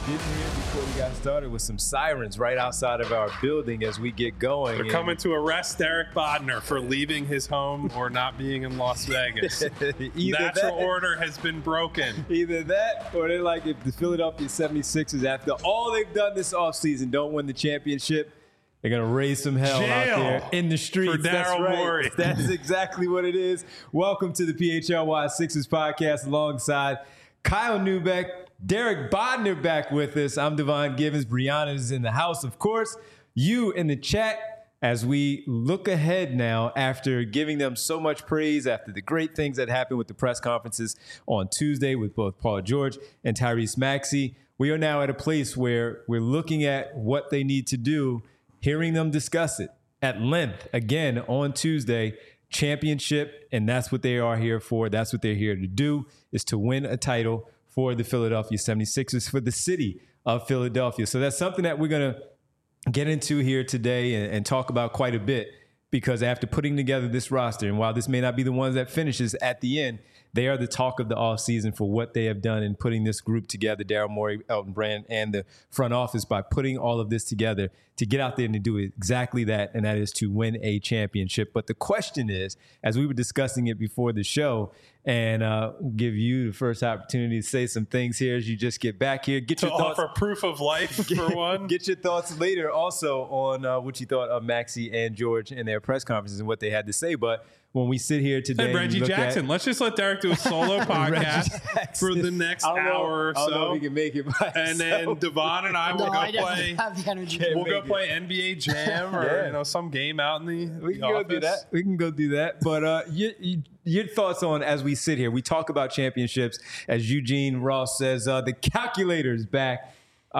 getting here before we got started with some sirens right outside of our building as we get going. They're coming to arrest Derek Bodner for leaving his home or not being in Las Vegas. Natural order has been broken. Either that or they're like, if the Philadelphia 76ers, after all they've done this offseason, don't win the championship, they're going to raise some hell out there in the streets. For Daryl Morey. That's exactly what it is. Welcome to the PHLY Sixers podcast alongside Kyle Neubeck, Derek Bodner back with us. I'm Devon Givens. Brianna is in the house, of course. You in the chat as we look ahead now after giving them so much praise after the great things that happened with the press conferences on Tuesday with both Paul George and Tyrese Maxey. We are now at a place where we're looking at what they need to do, hearing them discuss it at length again on Tuesday. Championship, and that's what they are here for. That's what they're here to do, is to win a title for the Philadelphia 76ers, for the city of Philadelphia. So that's something that we're going to get into here today and talk about quite a bit, because after putting together this roster, and while this may not be the ones that finishes at the end, they are the talk of the offseason for what they have done in putting this group together, Daryl Morey, Elton Brand, and the front office, by putting all of this together to get out there and to do exactly that, and that is to win a championship. But the question is, as we were discussing it before the show, and give you the first opportunity to say some things here as you just get back here. Get your thoughts. Offer proof of life, for one. Get your thoughts later also on what you thought of Maxey and George in their press conferences and what they had to say. But when we sit here today, hey, Reggie Jackson, let's just let Derek do a solo podcast for the next hour or so. I don't know if he can make it by and then Devon and I will go play. Have the energy. We'll go play NBA Jam or some game out in the We can office. go do that. We can go do that. But your thoughts on, as we sit here, we talk about championships, as Eugene Ross says, the calculator's back.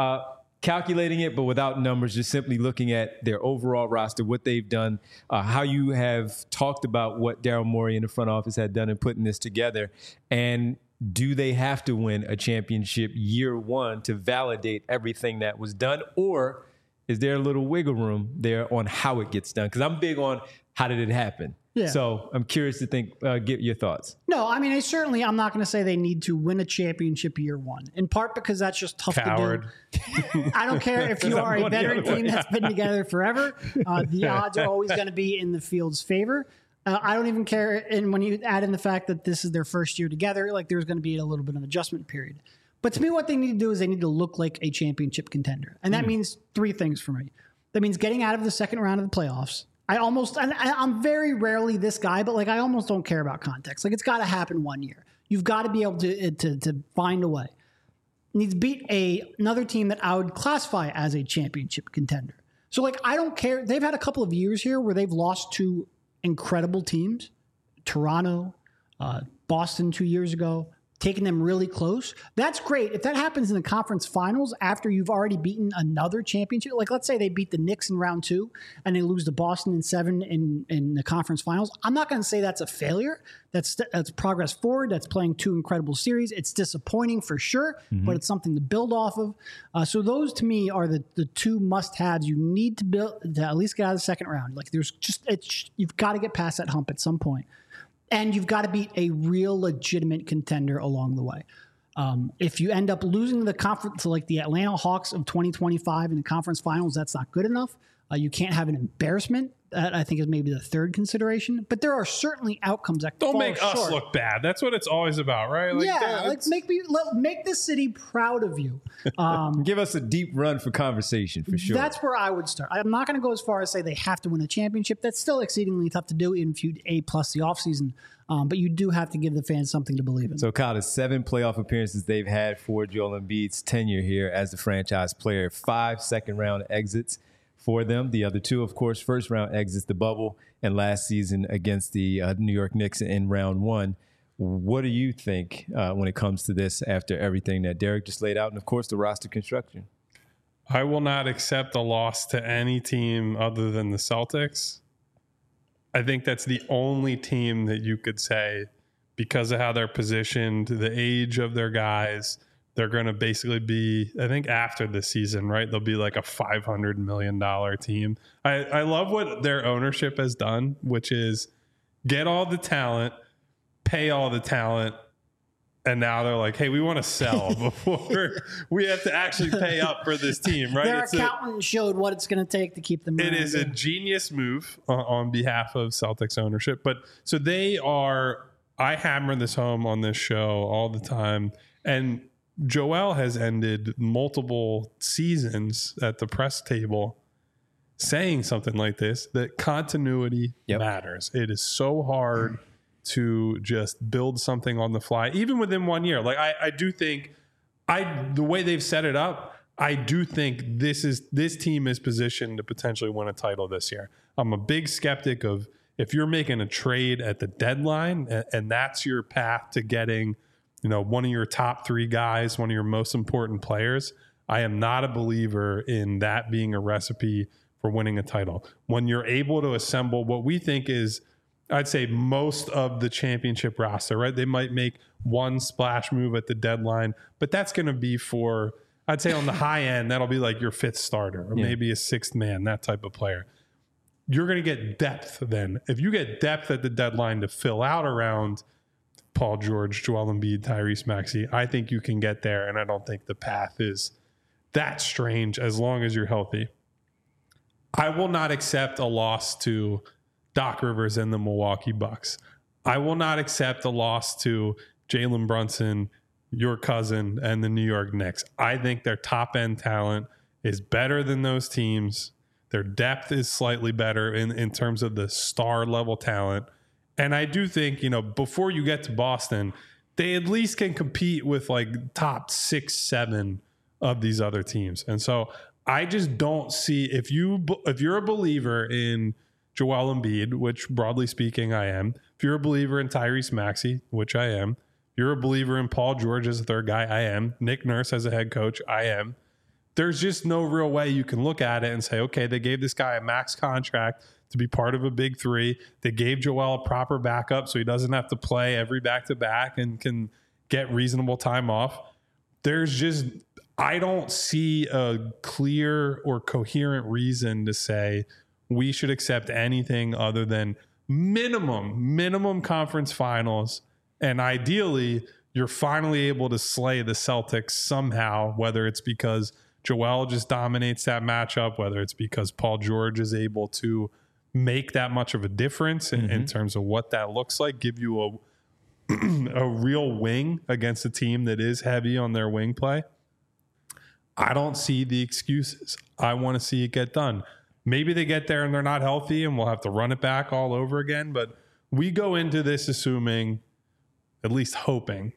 Calculating it, but without numbers, just simply looking at their overall roster, what they've done, how you have talked about what Daryl Morey in the front office had done in putting this together. And do they have to win a championship year one to validate everything that was done? Or is there a little wiggle room there on how it gets done? Because I'm big on how did it happen. Yeah. So I'm curious to get your thoughts. No, I mean, I'm not going to say they need to win a championship year one, in part because that's just tough to do. I don't care if you are a veteran team that's been together forever. The odds are always going to be in the field's favor. I don't even care. And when you add in the fact that this is their first year together, like there's going to be a little bit of adjustment period. But to me, what they need to do is they need to look like a championship contender. And that means three things for me. That means getting out of the second round of the playoffs. I'm very rarely this guy, but like I almost don't care about context. Like it's got to happen one year. You've got to be able to find a way. Needs to beat another team that I would classify as a championship contender. So like I don't care. They've had a couple of years here where they've lost to incredible teams, Toronto, Boston 2 years ago, taking them really close. That's great. If that happens in the conference finals after you've already beaten another championship, like let's say they beat the Knicks in round 2 and they lose to Boston in 7 in the conference finals, I'm not going to say that's a failure. That's progress forward. That's playing 2 incredible series. It's disappointing for sure, but it's something to build off of. So those to me are the 2 must-haves you need to build to at least get out of the second round. Like you've got to get past that hump at some point. And you've got to beat a real legitimate contender along the way. If you end up losing the conference to like the Atlanta Hawks of 2025 in the conference finals, that's not good enough. You can't have an embarrassment. That I think is maybe the third consideration. But there are certainly outcomes that don't fall make short. us look bad. That's what it's always about, right? Like, make the city proud of you. Give us a deep run for conversation, for sure. That's where I would start. I'm not going to go as far as say they have to win a championship. That's still exceedingly tough to do, even if you A+ the offseason. But you do have to give the fans something to believe in. So, Kyle, the 7 playoff appearances they've had for Joel Embiid's tenure here as the franchise player, 5 second-round exits for them. The other 2, of course, first-round exits, the bubble, and last season against the New York Knicks in round 1. What do you think when it comes to this after everything that Derek just laid out and, of course, the roster construction? I will not accept a loss to any team other than the Celtics. I think that's the only team that you could say, because of how they're positioned, the age of their guys, they're going to basically be, I think after the season, right, they'll be like a $500 million team. I love what their ownership has done, which is get all the talent, pay all the talent, And now they're like, hey, we want to sell before we have to actually pay up for this team, right? Their accountant showed what it's going to take to keep them around. It is a genius move on behalf of Celtics ownership. But so they are, I hammer this home on this show all the time. And Joel has ended multiple seasons at the press table saying something like this, that continuity matters. It is so hard to just build something on the fly, even within 1 year. Like I do think the way they've set it up, I do think this team is positioned to potentially win a title this year. I'm a big skeptic of if you're making a trade at the deadline and that's your path to getting, one of your top 3 guys, one of your most important players. I am not a believer in that being a recipe for winning a title. When you're able to assemble what we think is, I'd say, most of the championship roster, right? They might make one splash move at the deadline, but that's going to be for, I'd say on the high end, that'll be like your 5th starter or maybe a 6th man, that type of player. You're going to get depth then. If you get depth at the deadline to fill out around Paul George, Joel Embiid, Tyrese Maxey, I think you can get there, and I don't think the path is that strange as long as you're healthy. I will not accept a loss to Doc Rivers and the Milwaukee Bucks. I will not accept a loss to Jalen Brunson, your cousin, and the New York Knicks. I think their top-end talent is better than those teams. Their depth is slightly better in terms of the star-level talent. And I do think, before you get to Boston, they at least can compete with like top 6, 7 of these other teams. And so I just don't see, if you're a believer in Joel Embiid, which broadly speaking I am, if you're a believer in Tyrese Maxey, which I am, if you're a believer in Paul George as a third guy, I am, Nick Nurse as a head coach, I am, there's just no real way you can look at it and say, okay, they gave this guy a max contract to be part of a big 3. They gave Joel a proper backup so he doesn't have to play every back-to-back and can get reasonable time off. I don't see a clear or coherent reason to say we should accept anything other than minimum conference finals. And ideally, you're finally able to slay the Celtics somehow, whether it's because Joel just dominates that matchup, whether it's because Paul George is able to make that much of a difference in terms of what that looks like, give you a real wing against a team that is heavy on their wing play. I don't see the excuses. I want to see it get done. Maybe they get there and they're not healthy and we'll have to run it back all over again. But we go into this assuming, at least hoping,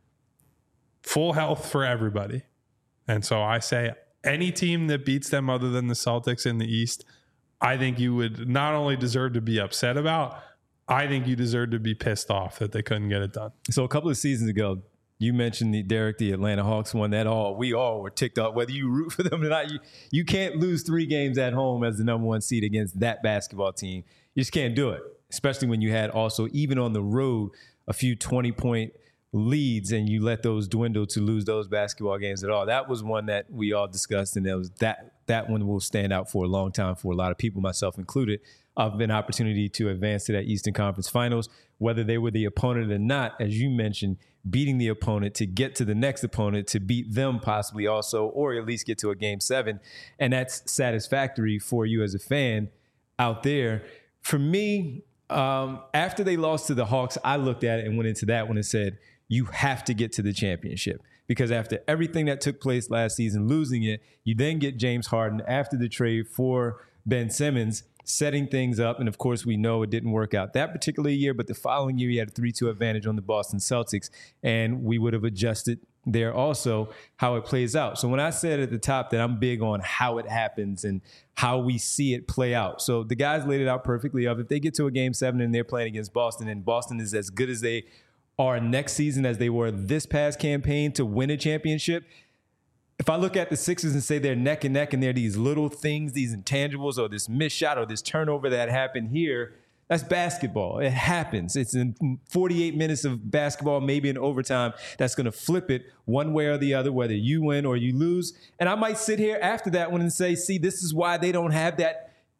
full health for everybody. And so I say any team that beats them other than the Celtics in the East, I think you would not only deserve to be upset about, I think you deserve to be pissed off that they couldn't get it done. So a couple of seasons ago, you mentioned the Atlanta Hawks won that all. We all were ticked off. Whether you root for them or not, you can't lose 3 games at home as the number 1 seed against that basketball team. You just can't do it, especially when you had also, even on the road, a few 20-point leads and you let those dwindle to lose those basketball games at all. That was one that we all discussed, and that one will stand out for a long time for a lot of people, myself included, of an opportunity to advance to that Eastern Conference Finals, whether they were the opponent or not, as you mentioned, beating the opponent to get to the next opponent, to beat them possibly also, or at least get to a Game 7. And that's satisfactory for you as a fan out there. For me, after they lost to the Hawks, I looked at it and went into that one and said, you have to get to the championship. Because after everything that took place last season, losing it, you then get James Harden after the trade for Ben Simmons, setting things up. And of course, we know it didn't work out that particular year, but the following year, he had a 3-2 advantage on the Boston Celtics. And we would have adjusted there also how it plays out. So when I said at the top that I'm big on how it happens and how we see it play out. So the guys laid it out perfectly of if they get to a Game 7 and they're playing against Boston, and Boston is as good as they are next season as they were this past campaign to win a championship. If I look at the Sixers and say they're neck and neck and they're these little things, these intangibles, or this missed shot or this turnover that happened here, that's basketball. It happens. It's in 48 minutes of basketball, maybe in overtime, that's going to flip it one way or the other, whether you win or you lose. And I might sit here after that one and say, see, this is why they don't have that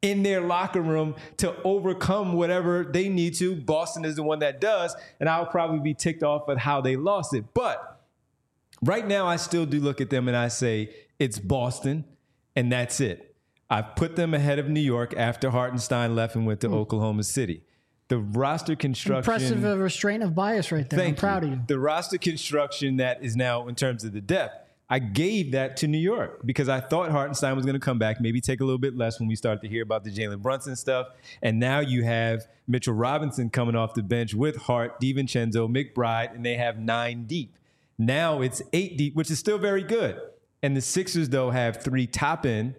in their locker room to overcome whatever they need to. Boston is the one that does, and I'll probably be ticked off at how they lost it. But right now, I still do look at them and I say it's Boston, and that's it. I've put them ahead of New York after Hartenstein left and went to Oklahoma City. The roster construction... Impressive restraint of bias right there. I'm proud of you. The roster construction that is now in terms of the depth, I gave that to New York because I thought Hartenstein was going to come back, maybe take a little bit less when we start to hear about the Jalen Brunson stuff. And now you have Mitchell Robinson coming off the bench with Hart, DiVincenzo, McBride, and they have 9 deep. Now it's 8 deep, which is still very good. And the Sixers, though, have 3 top end.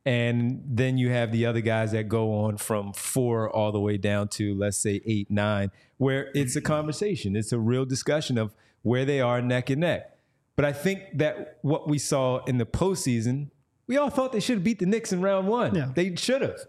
And then you have the other guys that go on from 4 all the way down to, let's say, 8, 9, where it's a conversation. It's a real discussion of where they are neck and neck. But I think that what we saw in the postseason, we all thought they should have beat the Knicks in round 1. Yeah. They should have.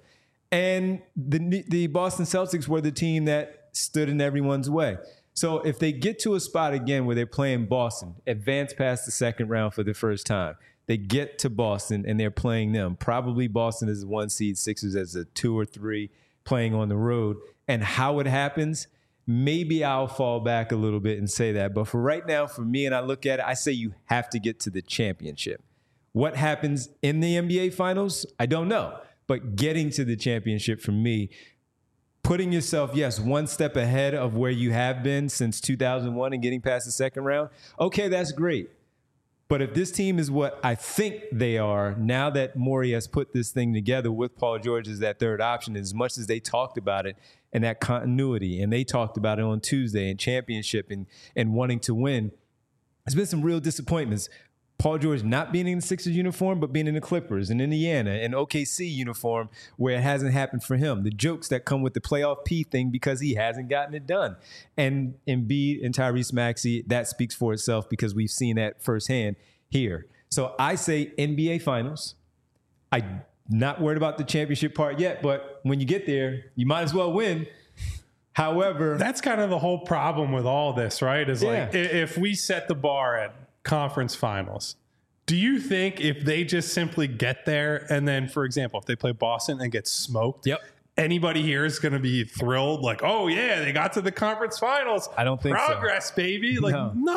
And the Boston Celtics were the team that stood in everyone's way. So if they get to a spot again where they're playing Boston, advance past the second round for the first time, they get to Boston and they're playing them. Probably Boston is a 1 seed, Sixers as a 2 or 3 playing on the road. And how it happens, maybe I'll fall back a little bit and say that. But for right now, for me, and I look at it, I say you have to get to the championship. What happens in the NBA Finals, I don't know. But getting to the championship for me, putting yourself, yes, 1 step ahead of where you have been since 2001 and getting past the second round, okay, that's great. But if this team is what I think they are, now that Morey has put this thing together with Paul George as that third option, as much as they talked about it and that continuity, and they talked about it on Tuesday and championship and wanting to win, there's been some real disappointments. Paul George not being in the Sixers uniform, but being in the Clippers and Indiana and OKC uniform where it hasn't happened for him. The jokes that come with the playoff P thing because he hasn't gotten it done. And Embiid and Tyrese Maxey, that speaks for itself because we've seen that firsthand here. So I say NBA Finals. I'm not worried about the championship part yet, but when you get there, you might as well win. However, that's kind of the whole problem with all this, right? Is like if we set the bar at conference finals, do you think if they just simply get there and then, for example, if they play Boston and get smoked, anybody here is going to be thrilled? Like, oh yeah, they got to the conference finals. I don't think progress, baby. Like,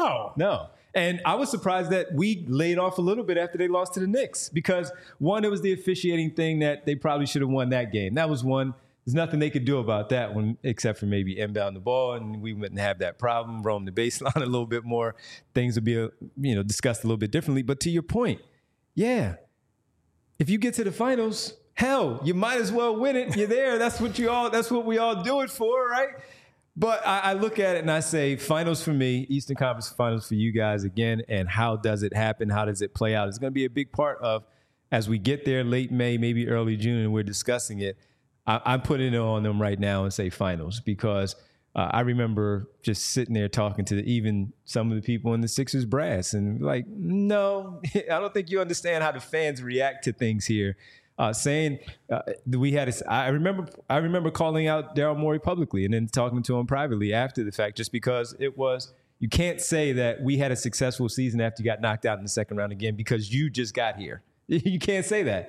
no. And I was surprised that we laid off a little bit after they lost to the Knicks because, one, it was the officiating thing that they probably should have won that game. That was one. There's nothing they could do about that one except for maybe inbound the ball, and we wouldn't have that problem, roam the baseline a little bit more. Things would be discussed a little bit differently. But to your point, if you get to the finals, hell, you might as well win it. You're there. That's what we all do it for, right? But I look at it and I say finals for me, Eastern Conference Finals for you guys again, and how does it happen? How does it play out? It's going to be a big part of as we get there late May, maybe early June, and we're discussing it. I'm putting it on them right now and say finals because I remember just sitting there talking to even some of the people in the Sixers brass and like, no, I don't think you understand how the fans react to things here. Saying we had, I remember calling out Daryl Morey publicly and then talking to him privately after the fact, just because it was, you can't say that we had a successful season after you got knocked out in the second round again because you just got here. You can't say that.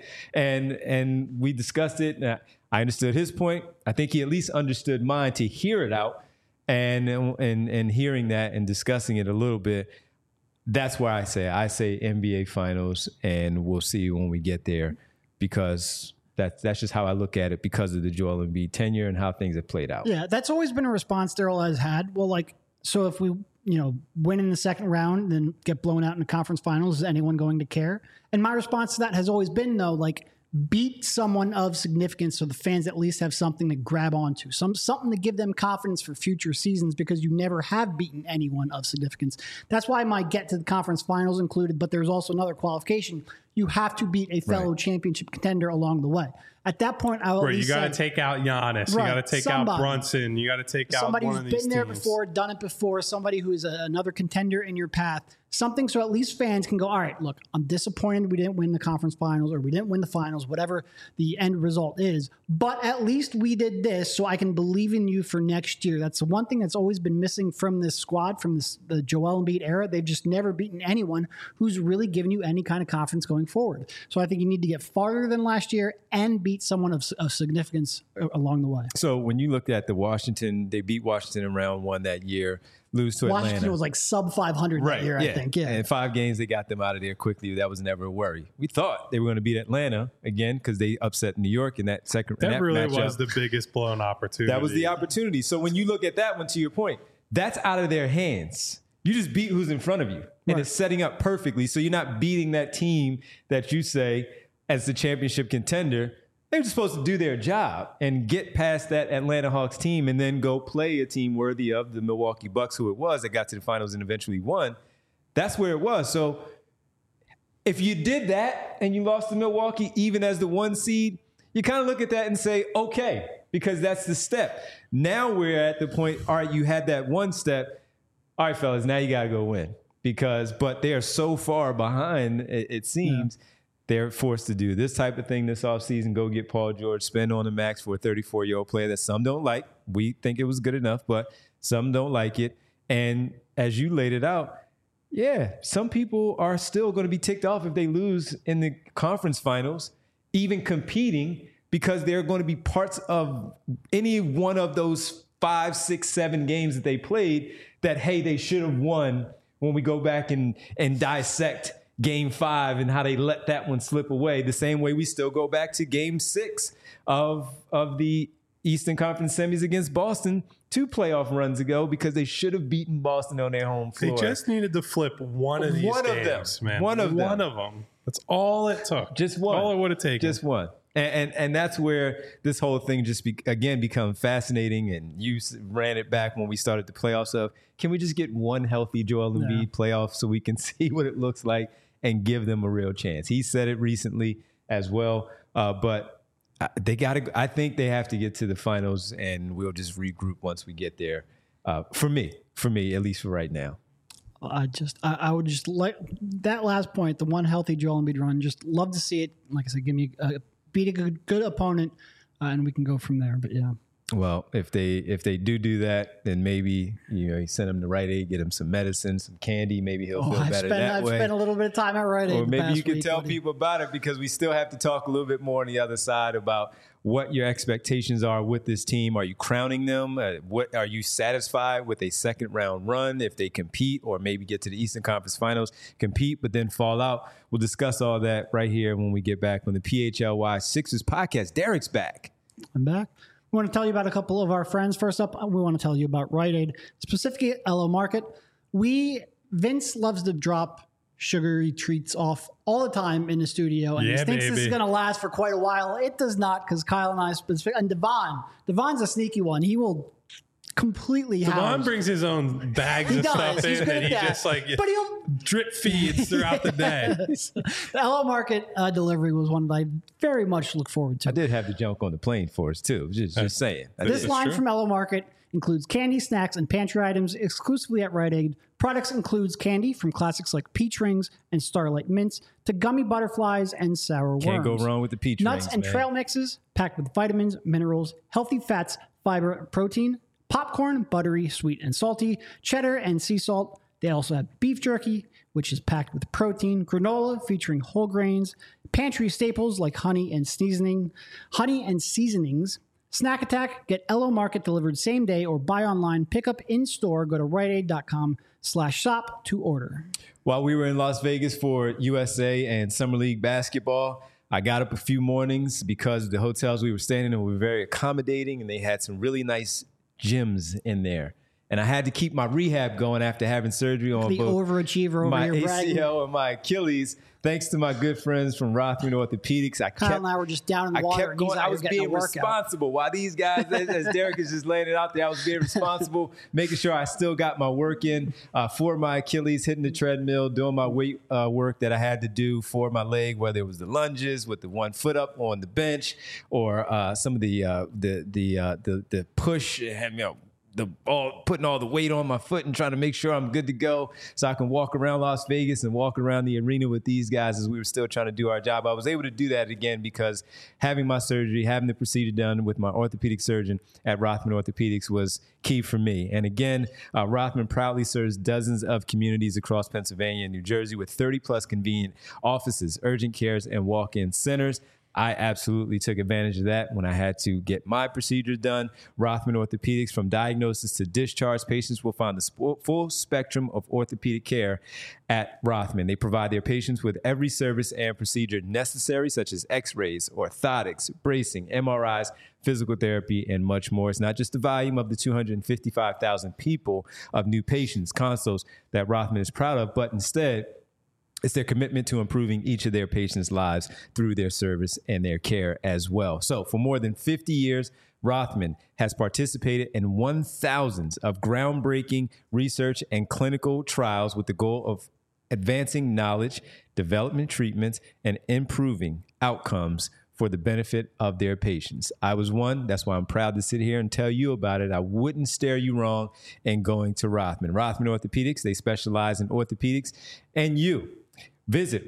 And we discussed it. And I understood his point. I think he at least understood mine to hear it out and hearing that and discussing it a little bit. That's why I say NBA Finals, and we'll see when we get there. Because that's just how I look at it because of the Joel Embiid tenure and how things have played out. Yeah, that's always been a response Daryl has had. Well, so if we, win in the second round, then get blown out in the conference finals, is anyone going to care? And my response to that has always been, though, beat someone of significance so the fans at least have something to grab onto, something to give them confidence for future seasons because you never have beaten anyone of significance. That's why my get to the conference finals included, but there's also another qualification. You have to beat a fellow championship contender along the way. At that point, I will you got to take out Giannis. You got to take out Brunson. You got to take out one of these teams. Somebody who's been there before, done it before, somebody who is another contender in your path. Something so at least fans can go, all right, look, I'm disappointed we didn't win the conference finals or we didn't win the finals, whatever the end result is. But at least we did this, so I can believe in you for next year. That's the one thing that's always been missing from this squad, from the Joel Embiid era. They've just never beaten anyone who's really given you any kind of confidence going forward. So I think you need to get farther than last year and beat beat someone of significance along the way. So when you looked at they beat Washington in round 1 that year, lose to Atlanta. Washington was like sub 500 that year, I think. Yeah. And in 5 games, they got them out of there quickly. That was never a worry. We thought they were going to beat Atlanta again because they upset New York in that second That really matchup. was the biggest blown opportunity. That was the opportunity. So when you look at that one, to your point, that's out of their hands. You just beat who's in front of you. And it's setting up perfectly. So you're not beating that team that you say as the championship contender. They're just supposed to do their job and get past that Atlanta Hawks team and then go play a team worthy of the Milwaukee Bucks, who it was, that got to the finals and eventually won. That's where it was. So if you did that and you lost to Milwaukee, even as the 1 seed, you kind of look at that and say, okay, because that's the step. Now we're at the point, all right, you had that 1 step. All right, fellas, now you got to go win. But they are so far behind, it seems. Yeah. They're forced to do this type of thing this offseason, go get Paul George, spend on the max for a 34-year-old player that some don't like. We think it was good enough, but some don't like it. And as you laid it out, yeah, some people are still going to be ticked off if they lose in the conference finals, even competing, because they're going to be parts of any one of those 5, 6, 7 games that they played that, hey, they should have won when we go back and dissect Game 5 and how they let that one slip away. The same way we still go back to Game 6 of the Eastern Conference semis against Boston 2 playoff runs ago, because they should have beaten Boston on their home floor. They just needed to flip one of these games, man. One of them. That's all it took. Just one. All it would have taken. Just one. And that's where this whole thing just become fascinating. And you ran it back when we started the playoffs of, can we just get one healthy Joel Embiid playoff so we can see what it looks like and give them a real chance? He said it recently as well, but they got to. I think they have to get to the finals, and we'll just regroup once we get there. For me, at least for right now. I would just like that last point, the one healthy Joel Embiid run. Just love to see it. Like I said, give me beat a good opponent, and we can go from there. But yeah. Well, if they do that, then maybe you send him to Rite Aid, get him some medicine, some candy. Maybe he'll feel better that way. I've spent a little bit of time at Rite Aid. Or maybe you can tell people about it, because we still have to talk a little bit more on the other side about what your expectations are with this team. Are you crowning them? What are you satisfied with a second round run if they compete, or maybe get to the Eastern Conference Finals, compete, but then fall out? We'll discuss all that right here when we get back on the PHLY Sixers podcast. Derek's back. I'm back. We want to tell you about a couple of our friends. First up, we want to tell you about Rite Aid, specifically LO Market. Vince loves to drop sugary treats off all the time in the studio, and he thinks this is going to last for quite a while. It does not, because Kyle and I, and Devon's a sneaky one. He will completely Devon brings his own bags of stuff in, and he just but he'll drip feeds throughout the day. The LO Market delivery was one that I very much look forward to. I did have the junk on the plane for us too. Just saying. This line from LO Market includes candy, snacks, and pantry items exclusively at Rite Aid. Products includes candy from classics like peach rings and Starlight Mints to gummy butterflies and sour worms. Can't go wrong with the peach rings, nuts and trail mixes packed with vitamins, minerals, healthy fats, fiber, protein, popcorn, buttery, sweet and salty, cheddar and sea salt. They also have beef jerky, which is packed with protein, granola featuring whole grains, pantry staples like honey and seasonings. Snack Attack, get LO Market delivered same day or buy online, pick up in store. Go to riteaid.com/shop to order. While we were in Las Vegas for USA and Summer League basketball, I got up a few mornings because the hotels we were staying in were very accommodating, and they had some really nice gyms in there. And I had to keep my rehab going after having surgery on the both overachiever my over ACL and my Achilles. Thanks to my good friends from Rothman Orthopedics. Kyle and I were just down in the water. Kept going. I was being responsible. While these guys, as Derek is just laying it out there, I was being responsible, making sure I still got my work in for my Achilles, hitting the treadmill, doing my weight work that I had to do for my leg, whether it was the lunges with the 1 foot up on the bench, or some of the push, putting all the weight on my foot and trying to make sure I'm good to go so I can walk around Las Vegas and walk around the arena with these guys as we were still trying to do our job. I was able to do that again because having my surgery, having the procedure done with my orthopedic surgeon at Rothman Orthopedics was key for me. And again, Rothman proudly serves dozens of communities across Pennsylvania and New Jersey with 30 plus convenient offices, urgent cares, and walk-in centers. I absolutely took advantage of that when I had to get my procedures done. Rothman Orthopedics, from diagnosis to discharge, patients will find the full spectrum of orthopedic care at Rothman. They provide their patients with every service and procedure necessary, such as x-rays, orthotics, bracing, MRIs, physical therapy, and much more. It's not just the volume of the 255,000 people of new patients, consults that Rothman is proud of, but instead, it's their commitment to improving each of their patients' lives through their service and their care as well. So for more than 50 years, Rothman has participated in 1,000s of groundbreaking research and clinical trials with the goal of advancing knowledge, development treatments, and improving outcomes for the benefit of their patients. I was one. That's why I'm proud to sit here and tell you about it. I wouldn't steer you wrong in going to Rothman. Rothman Orthopedics, they specialize in orthopedics, and you. Visit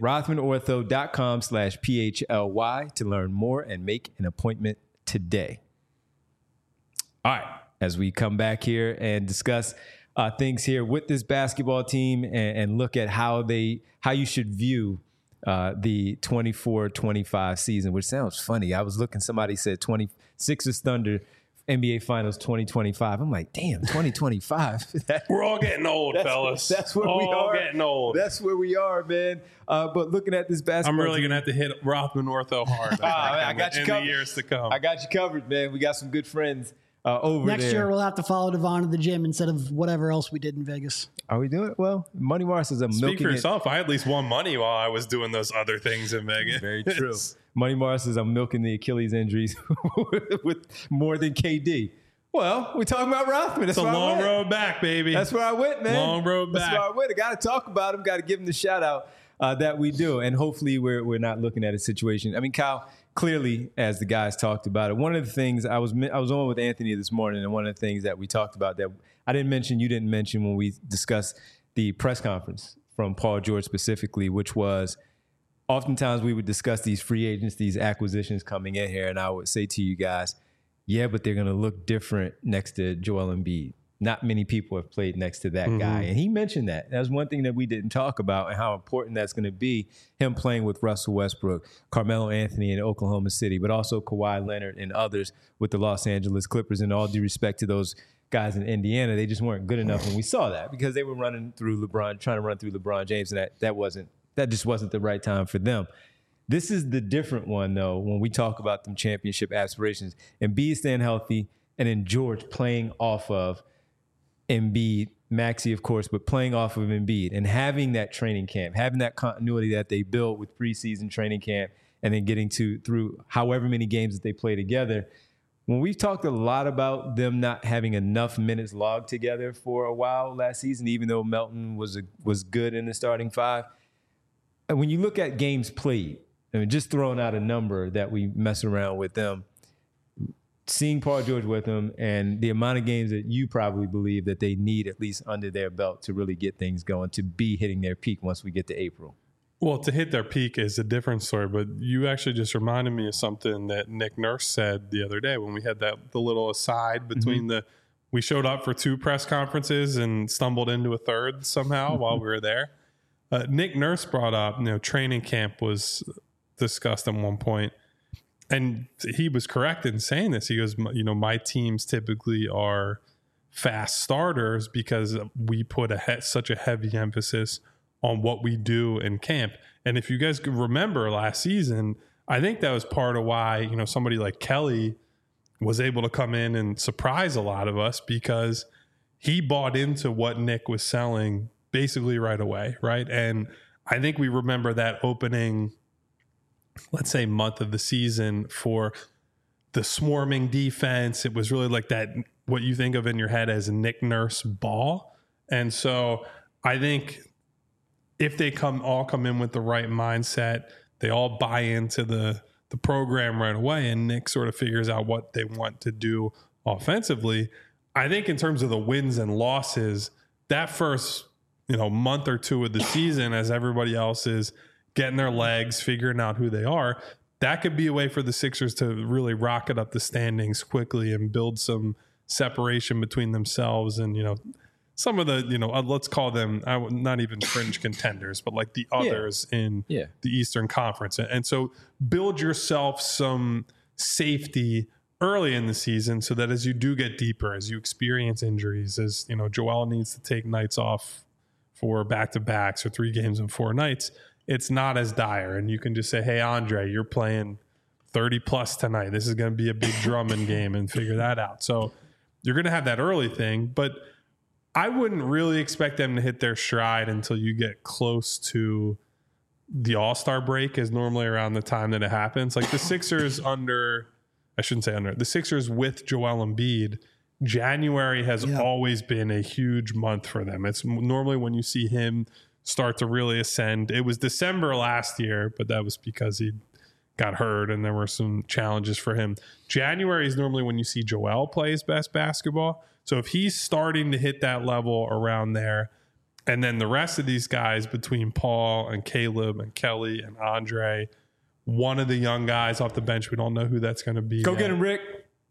rothmanortho.com/PHLY to learn more and make an appointment today. All right, as we come back here and discuss things here with this basketball team and look at how you should view the 24-25 season, which sounds funny. I was looking, somebody said 26ers Thunder NBA Finals 2025. I'm like, damn, 2025. We're all getting old, fellas. That's where we are. All getting old. That's where we are, man. But looking at this basketball, I'm really going to have to hit Rothman Ortho hard. I got you covered. In the years to come. I got you covered, man. We got some good friends over Next there. year, we'll have to follow Devon to the gym instead of whatever else we did in Vegas. Are we doing it? Well, Money Mars is a milking Speak for yourself. I at least won money while I was doing those other things in Vegas. Very true. Money Mars says I'm milking the Achilles injuries with more than KD. Well, we're talking about Rothman. It's a long road back, baby. That's where I went, man. Long road back. That's where I went. I got to talk about him. Got to give him the shout out that we do. And hopefully we're not looking at a situation. I mean, Kyle, clearly, as the guys talked about it, one of the things I was on with Anthony this morning, and one of the things that we talked about that I didn't mention, you didn't mention when we discussed the press conference from Paul George specifically, which was oftentimes we would discuss these free agents, these acquisitions coming in here, and I would say to you guys, yeah, but they're going to look different next to Joel Embiid. Not many people have played next to that guy. And he mentioned that. That was one thing that we didn't talk about, and how important that's going to be, him playing with Russell Westbrook, Carmelo Anthony in Oklahoma City, but also Kawhi Leonard and others with the Los Angeles Clippers. And all due respect to those guys in Indiana, they just weren't good enough. And we saw that because they were trying to run through LeBron James, and that just wasn't the right time for them. This is the different one, though, when we talk about them championship aspirations. Embiid staying healthy, and then George playing off of Embiid, Maxey, of course, but playing off of Embiid and having that training camp, having that continuity that they built with preseason training camp, and then getting through however many games that they play together. When we've talked a lot about them not having enough minutes logged together for a while last season, even though Melton was good in the starting five, and when you look at games played, I mean, just throwing out a number that we mess around with them, seeing Paul George with them, and the amount of games that you probably believe that they need at least under their belt to really get things going, to be hitting their peak once we get to April. Well, to hit their peak is a different story, but you actually just reminded me of something that Nick Nurse said the other day when we had the little aside between we showed up for 2 press conferences and stumbled into a third somehow while we were there. Nick Nurse brought up, training camp was discussed at one point, and he was correct in saying this. He goes, my teams typically are fast starters because we put such a heavy emphasis on what we do in camp. And if you guys remember last season, I think that was part of why, somebody like Kelly was able to come in and surprise a lot of us, because he bought into what Nick was selling basically right away, right? And I think we remember that opening, let's say, month of the season for the swarming defense. It was really like that, what you think of in your head as a Nick Nurse ball. And so I think if they all come in with the right mindset, they all buy into the program right away, and Nick sort of figures out what they want to do offensively. I think in terms of the wins and losses, that first month or two of the season, as everybody else is getting their legs, figuring out who they are, that could be a way for the Sixers to really rocket up the standings quickly and build some separation between themselves and, some of the, let's call them not even fringe contenders, but like the others in the Eastern Conference. And so build yourself some safety early in the season so that as you do get deeper, as you experience injuries, as Joel needs to take nights off for back-to-backs or 3 games in 4 nights, it's not as dire. And you can just say, hey, Andre, you're playing 30 plus tonight. This is going to be a big Drummond game, and figure that out. So you're going to have that early thing, but I wouldn't really expect them to hit their stride until you get close to the All-Star break, is normally around the time that it happens. Like the Sixers the Sixers with Joel Embiid, January has always been a huge month for them. It's normally when you see him start to really ascend. It was December last year, but that was because he got hurt and there were some challenges for him. January is normally when you see Joel play his best basketball. So if he's starting to hit that level around there, and then the rest of these guys between Paul and Caleb and Kelly and Andre, one of the young guys off the bench, we don't know who that's going to be. Go get him, Rick.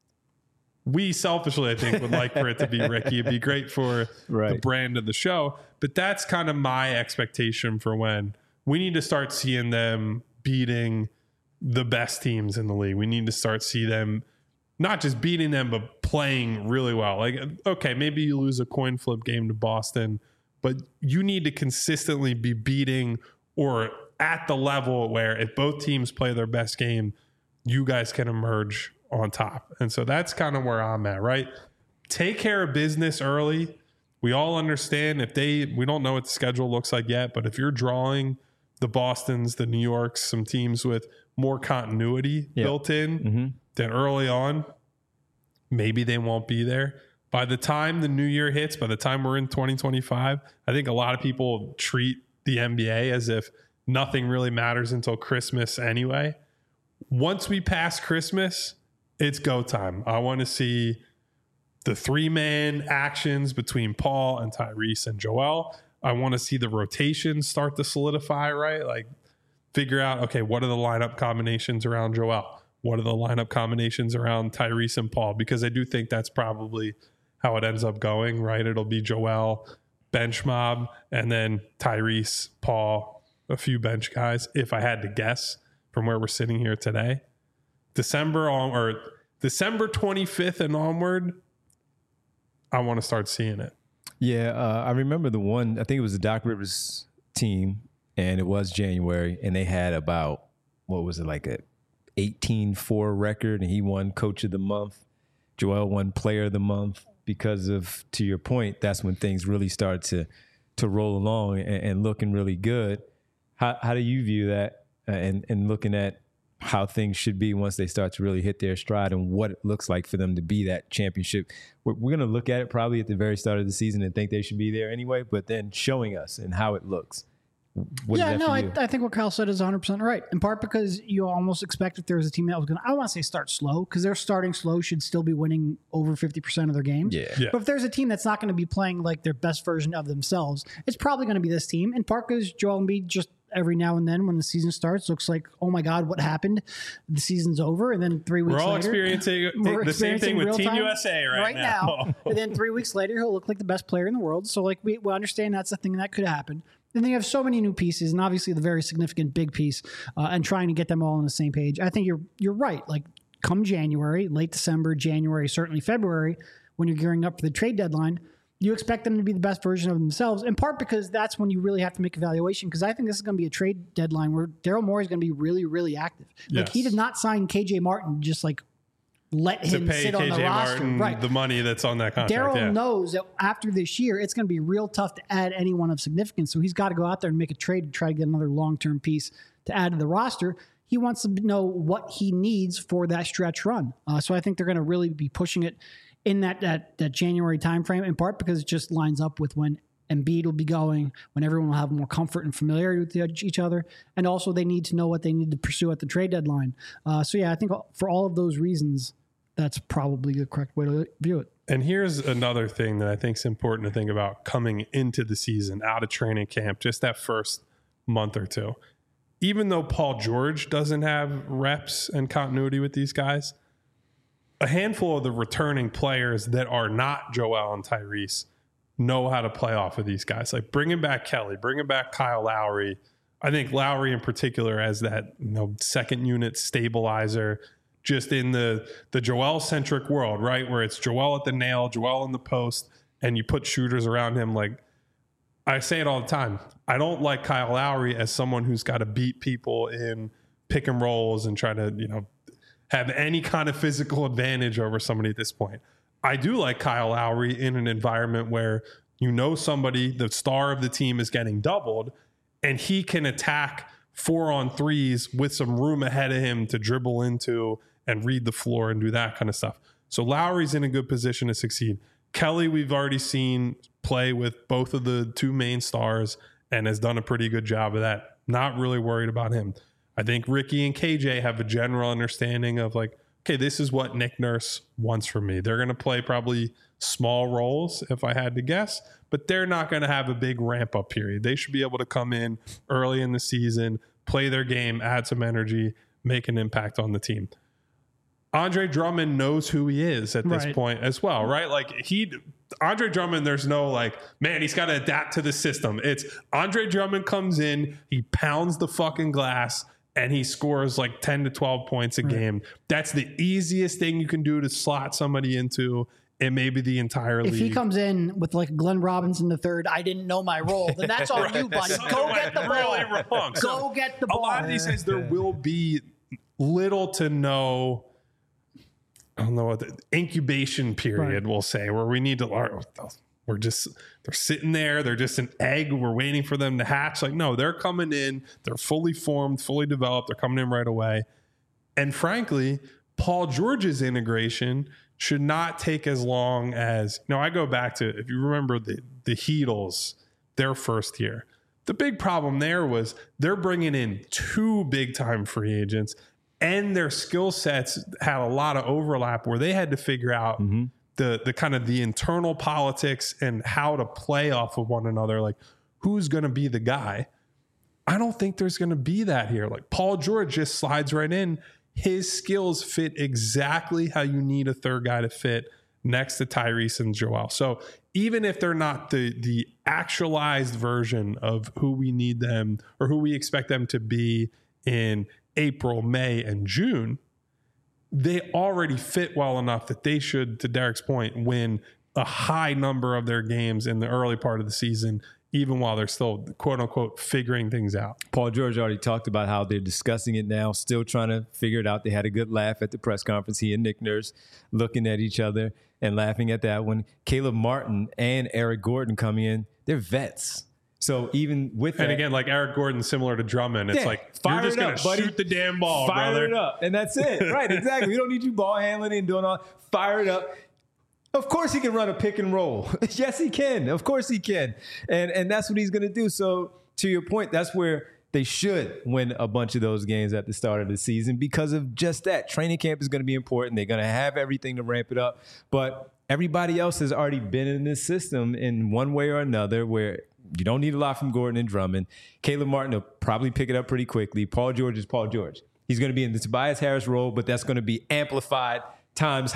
We selfishly, I think, would like for it to be Ricky. It'd be great for the brand of the show. But that's kind of my expectation for when we need to start seeing them beating the best teams in the league. We need to start see them not just beating them, but playing really well. Like, okay, maybe you lose a coin flip game to Boston, but you need to consistently be beating or at the level where if both teams play their best game, you guys can emerge on top. And so that's kind of where I'm at, right? Take care of business early. We all understand we don't know what the schedule looks like yet, but if you're drawing the Bostons, the New Yorks, some teams with more continuity built in, then early on, maybe they won't be there. By the time the new year hits, by the time we're in 2025, I think a lot of people treat the NBA as if nothing really matters until Christmas anyway. Once we pass Christmas, it's go time. I want to see the 3-man actions between Paul and Tyrese and Joel. I want to see the rotations start to solidify, right? Like figure out, okay, what are the lineup combinations around Joel? What are the lineup combinations around Tyrese and Paul? Because I do think that's probably how it ends up going, right? It'll be Joel, bench mob, and then Tyrese, Paul, a few bench guys, if I had to guess from where we're sitting here today. December 25th and onward, I want to start seeing it. Yeah, I remember the one, I think it was the Doc Rivers team, and it was January, and they had about, what was it, like a 18-4 record, and he won Coach of the Month. Joel won Player of the Month because of, to your point, that's when things really start to roll along and looking really good. How do you view that and looking at how things should be once they start to really hit their stride and what it looks like for them to be that championship? We're going to look at it probably at the very start of the season and think they should be there anyway, but then showing us and how it looks. I think what Kyle said is 100% right. In part because you almost expect if there was a team that was going to, I don't want to say start slow, because their starting slow should still be winning over 50% of their games. Yeah. But if there's a team that's not going to be playing like their best version of themselves, it's probably going to be this team. In part because Joel Embiid just every now and then when the season starts looks like, oh my God, what happened? The season's over. And then 3 weeks later. We're all experiencing the same thing with Team USA right now. And then 3 weeks later, he'll look like the best player in the world. So like we understand that's a thing that could happen. And then you have so many new pieces, and obviously the very significant big piece, and trying to get them all on the same page. I think you're right. Like come January, late December, January, certainly February, when you're gearing up for the trade deadline, you expect them to be the best version of themselves, in part because that's when you really have to make evaluation, because I think this is going to be a trade deadline where Daryl Morey is going to be really, really active. Like he did not sign KJ Martin just like let him sit on the roster. Martin, right. The money that's on that contract. Daryl knows that after this year, it's going to be real tough to add anyone of significance. So he's got to go out there and make a trade to try to get another long-term piece to add to the roster. He wants to know what he needs for that stretch run. So I think they're going to really be pushing it in that January timeframe, in part because it just lines up with when Embiid will be going, when everyone will have more comfort and familiarity with each other. And also they need to know what they need to pursue at the trade deadline. So yeah, I think for all of those reasons, that's probably the correct way to view it. And here's another thing that I think is important to think about coming into the season, out of training camp, just that first month or two. Even though Paul George doesn't have reps and continuity with these guys, a handful of the returning players that are not Joel and Tyrese know how to play off of these guys. Like bringing back Kelly, bringing back Kyle Lowry. I think Lowry in particular as that second unit stabilizer, just in the Joel-centric world, right? Where it's Joel at the nail, Joel in the post, and you put shooters around him. Like I say it all the time. I don't like Kyle Lowry as someone who's got to beat people in pick and rolls and try to, have any kind of physical advantage over somebody at this point. I do like Kyle Lowry in an environment where somebody, the star of the team, is getting doubled, and he can attack 4-on-3s with some room ahead of him to dribble into and read the floor and do that kind of stuff. So Lowry's in a good position to succeed. Kelly, we've already seen play with both of the two main stars and has done a pretty good job of that. Not really worried about him. I think Ricky and KJ have a general understanding of like, okay, this is what Nick Nurse wants from me. They're going to play probably small roles if I had to guess, but they're not going to have a big ramp up period. They should be able to come in early in the season, play their game, add some energy, make an impact on the team. Andre Drummond knows who he is at this point as well, right? Like Andre Drummond, there's no like, man, he's got to adapt to the system. It's Andre Drummond comes in, he pounds the fucking glass, and he scores like 10 to 12 points a game. That's the easiest thing you can do to slot somebody into and maybe the entire league. If he comes in with like Glenn Robinson III, I didn't know my role, then that's on you, buddy. Go get the ball. Really wrong. Go get the ball. A lot of these guys, there will be little to no, I don't know what the incubation period we'll say, where we need to learn. They're sitting there. They're just an egg. We're waiting for them to hatch. Like, no, they're coming in. They're fully formed, fully developed. They're coming in right away. And frankly, Paul George's integration should not take as long as, I go back to, if you remember the Heatles, their first year. The big problem there was they're bringing in 2 big-time free agents, and their skill sets had a lot of overlap where they had to figure out the kind of the internal politics and how to play off of one another. Like, who's going to be the guy? I don't think there's going to be that here. Like, Paul George just slides right in. His skills fit exactly how you need a third guy to fit next to Tyrese and Joel. So even if they're not the actualized version of who we need them or who we expect them to be in April, May, and June, they already fit well enough that they should, to Derek's point, win a high number of their games in the early part of the season, even while they're still, quote unquote, figuring things out. Paul George already talked about how they're discussing it now, still trying to figure it out. They had a good laugh at the press conference. He and Nick Nurse looking at each other and laughing at that one. Caleb Martin and Eric Gordon coming in, they're vets. So even with that, and again, like Eric Gordon, similar to Drummond, it's like, you're just going to shoot the damn ball, fire brother. It up. And that's it. Right, exactly. We don't need you ball handling and doing all. Fire it up. Of course he can run a pick and roll. Yes, he can. Of course he can. And that's what he's going to do. So to your point, that's where they should win a bunch of those games at the start of the season because of just that. Training camp is going to be important. They're going to have everything to ramp it up. But everybody else has already been in this system in one way or another where you don't need a lot from Gordon and Drummond. Caleb Martin will probably pick it up pretty quickly. Paul George is Paul George. He's going to be in the Tobias Harris role, but that's going to be amplified times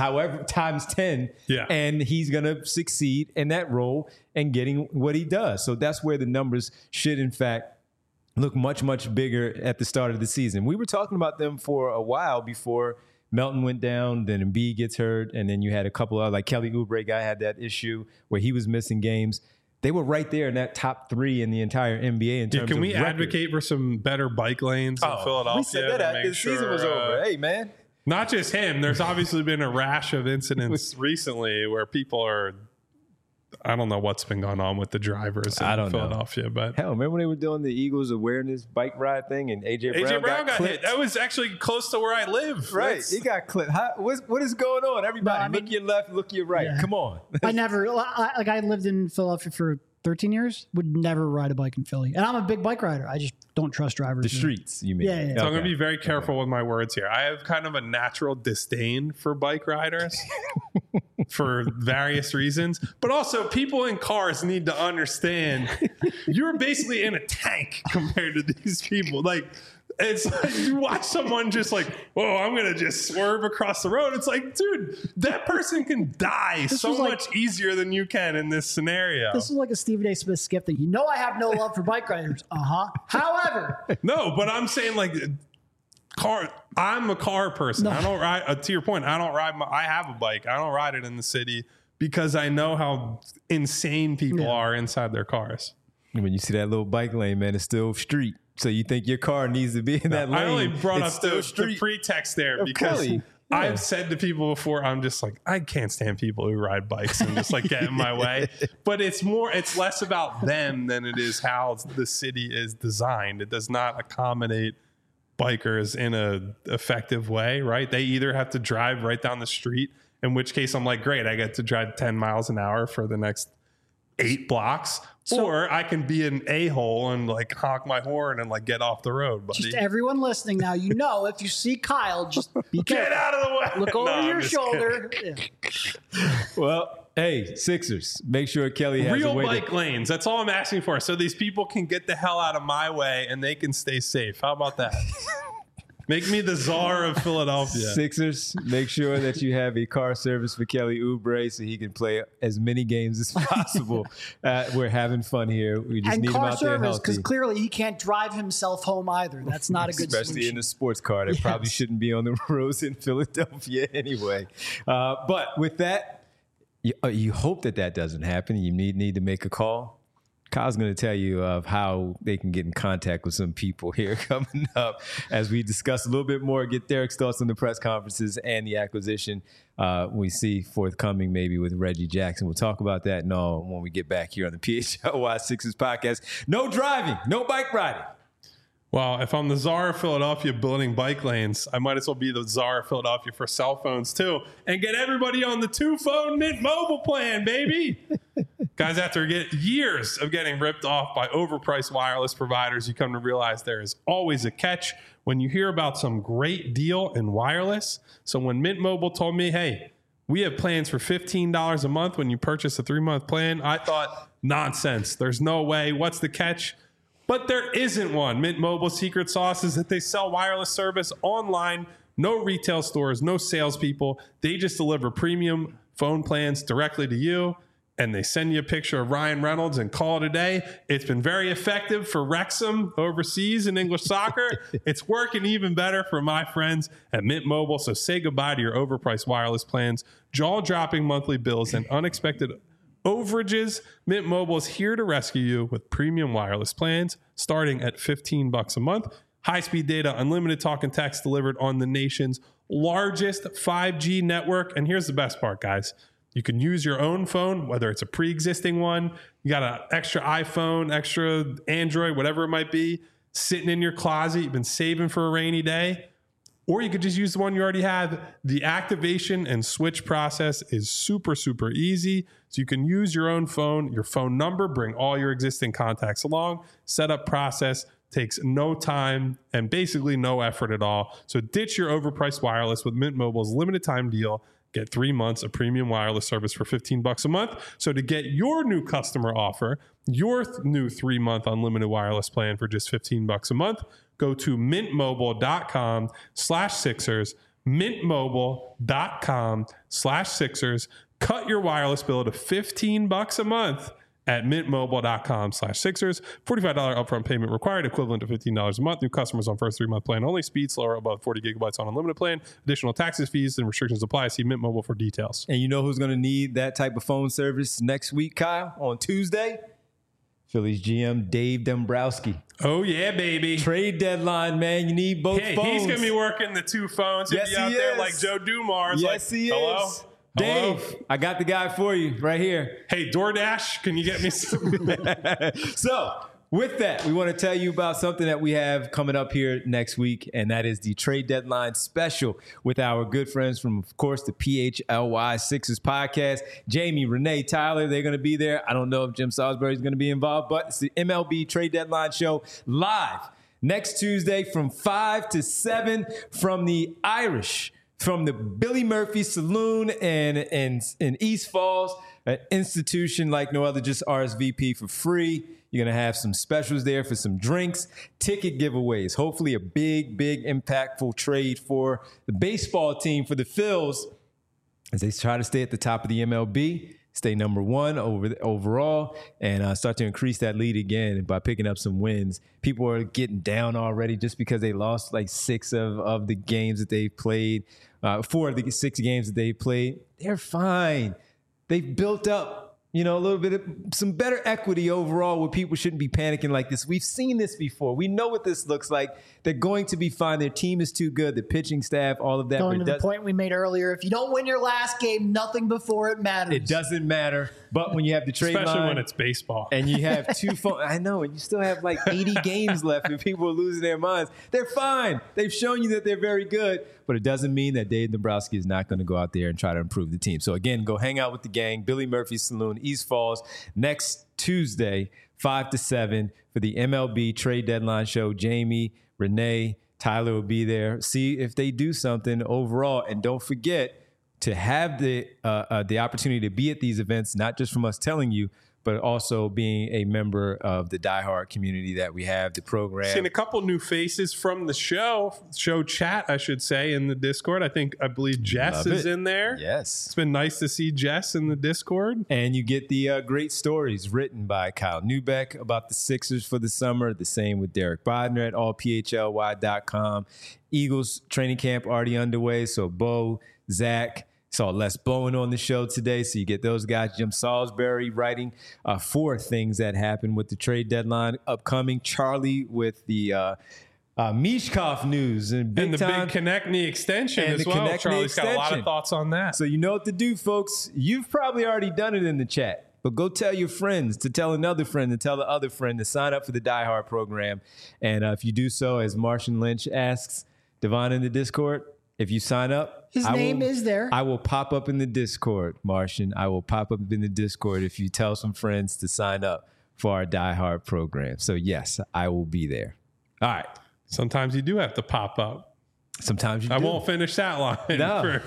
10. Yeah. And he's going to succeed in that role and getting what he does. So that's where the numbers should, in fact, look much, much bigger at the start of the season. We were talking about them for a while before Melton went down, then Embiid gets hurt, and then you had a couple of, like Kelly Oubre guy had that issue where he was missing games. They were right there in that top 3 in the entire NBA in terms of Can we record. advocate for some better bike lanes in Philadelphia? We said that after the season was over. Hey, man. Not just him. There's obviously been a rash of incidents recently where people are, I don't know what's been going on with the drivers in Philadelphia. But hell, remember when they were doing the Eagles awareness bike ride thing and AJ Brown got hit? That was actually close to where I live. Right. He got clipped. What is going on? Everybody, look your left, look your right. Yeah. Come on. I lived in Philadelphia for 13 years, would never ride a bike in Philly. And I'm a big bike rider. I just don't trust drivers. The streets, you mean? Yeah. So I'm going to be very careful with my words here. I have kind of a natural disdain for bike riders for various reasons. But also, people in cars need to understand you're basically in a tank compared to these people. Like, It's like you watch someone just like, whoa, I'm going to just swerve across the road. It's like, dude, that person can die so much easier than you can in this scenario. This is like a Stephen A. Smith skip thing. I have no love for bike riders. However. No, but I'm saying like I'm a car person. No. I don't ride, to your point, I have a bike. I don't ride it in the city because I know how insane people are inside their cars. When you see that little bike lane, man, it's still street. So you think your car needs to be in that lane. I only brought up the pretext there because I've said to people before, I'm just like, I can't stand people who ride bikes and just like get in my way. But it's less about them than it is how the city is designed. It does not accommodate bikers in a effective way, right? They either have to drive right down the street, in which case I'm like, great, I get to drive 10 miles an hour for the next 8 blocks, or I can be an a-hole and like honk my horn and like get off the road, buddy. Just everyone listening now, if you see Kyle, just be careful. Get out of the way. Look over your shoulder. Yeah. Well, hey, Sixers, make sure Kelly has real a way bike lanes. That's all I'm asking for. So these people can get the hell out of my way and they can stay safe. How about that? Make me the czar of Philadelphia. Sixers, make sure that you have a car service for Kelly Oubre so he can play as many games as possible. We're having fun here. We just need him out there healthy. Because clearly he can't drive himself home either. That's not a good solution. Especially in a sports car that probably shouldn't be on the roads in Philadelphia anyway. But with that, you hope that doesn't happen. You need to make a call. Kyle's going to tell you of how they can get in contact with some people here coming up as we discuss a little bit more, get Derek's thoughts on the press conferences and the acquisition we see forthcoming maybe with Reggie Jackson. We'll talk about that and all when we get back here on the PHLY Sixers podcast. No driving, no bike riding. Well, if I'm the czar of Philadelphia building bike lanes, I might as well be the czar of Philadelphia for cell phones too and get everybody on the 2-phone Mint Mobile plan, baby. Guys, after years of getting ripped off by overpriced wireless providers, you come to realize there is always a catch when you hear about some great deal in wireless. So when Mint Mobile told me, hey, we have plans for $15 a month when you purchase a 3-month plan, I thought, nonsense. There's no way. What's the catch? But there isn't one. Mint Mobile's secret sauce is that they sell wireless service online, no retail stores, no salespeople. They just deliver premium phone plans directly to you, and they send you a picture of Ryan Reynolds and call it a day. It's been very effective for Wrexham overseas in English soccer. It's working even better for my friends at Mint Mobile. So say goodbye to your overpriced wireless plans, jaw-dropping monthly bills, and unexpected overages. Mint Mobile is here to rescue you with premium wireless plans starting at $15 a month. High-speed data, unlimited talk and text delivered on the nation's largest 5G network. And here's the best part, guys. You can use your own phone, whether it's a pre-existing one, you got an extra iPhone, extra Android, whatever it might be, sitting in your closet, you've been saving for a rainy day. Or you could just use the one you already have. The activation and switch process is super, super easy. So you can use your own phone, your phone number, bring all your existing contacts along. Setup process takes no time and basically no effort at all. So ditch your overpriced wireless with Mint Mobile's limited time deal. Get 3 months of premium wireless service for $15 a month. So to get your new customer offer, your new 3-month unlimited wireless plan for just $15 a month, go to mintmobile.com/Sixers, mintmobile.com/Sixers. Cut your wireless bill to $15 a month at mintmobile.com/Sixers. $45 upfront payment required, equivalent to $15 a month. New customers on first 3-month plan only. Speed slower above 40 gigabytes on unlimited plan. Additional taxes, fees, and restrictions apply. See Mint Mobile for details. And you know who's going to need that type of phone service next week, Kyle? On Tuesday? Phillies GM Dave Dombrowski. Oh, yeah, baby. Trade deadline, man. You need both phones. He's going to be working the 2 phones. He'll be out there like Joe Dumars. Yes, he is. Hello? Dave, I got the guy for you right here. Hey, DoorDash, can you get me some? So, with that, we want to tell you about something that we have coming up here next week, and that is the trade deadline special with our good friends from, of course, the PHLY Sixers podcast. Jamie, Renee, Tyler, they're going to be there. I don't know if Jim Salisbury is going to be involved, but it's the MLB trade deadline show live next Tuesday from 5 to 7 from the Irish, from the Billy Murphy Saloon in East Falls. an institution like no other. Just RSVP for free. You're going to have some specials there for some drinks, ticket giveaways, hopefully a big, big impactful trade for the baseball team, for the Phils, as they try to stay at the top of the MLB, stay number one overall, and start to increase that lead again by picking up some wins. People are getting down already just because they lost like 6 of the games that they played, 4 of the 6 games that they played. They're fine. They've built up, a little bit of some better equity overall where people shouldn't be panicking like this. We've seen this before. We know what this looks like. They're going to be fine. Their team is too good. The pitching staff, all of that. Going to the point we made earlier, if you don't win your last game, nothing before it matters. It doesn't matter. But when you have the trade line. Especially when it's baseball. And you have 2 I know, and you still have like 80 games left and people are losing their minds. They're fine. They've shown you that they're very good. But it doesn't mean that Dave Dombrowski is not going to go out there and try to improve the team. So, again, go hang out with the gang. Billy Murphy's Saloon, East Falls, next Tuesday, 5 to 7 for the MLB trade deadline show. Jamie, Renee, Tyler will be there. See if they do something overall. And don't forget to have the opportunity to be at these events, not just from us telling you, but also being a member of the diehard community that we have, the program. Seen a couple new faces from the show chat, I should say, in the Discord. I believe Jess is in there. Yes. It's been nice to see Jess in the Discord. And you get the great stories written by Kyle Neubeck about the Sixers for the summer. The same with Derek Bodner at allphly.com. Eagles training camp already underway. So Bo, Zach, saw Les Bowen on the show today, so you get those guys. Jim Salisbury writing 4 things that happened with the trade deadline upcoming. Charlie with the Mishkov news and the big Konechny extension as well. Charlie's got a lot of thoughts on that. So you know what to do, folks. You've probably already done it in the chat, but go tell your friends to tell another friend to tell the other friend to sign up for the Die Hard program. And if you do so, as Martian Lynch asks Devon in the Discord, if you sign up, his name is there. I will pop up in the Discord, Martian. I will pop up in the Discord if you tell some friends to sign up for our Die Hard program. So, yes, I will be there. All right. Sometimes you do have to pop up. Sometimes you do. I won't finish that line. No.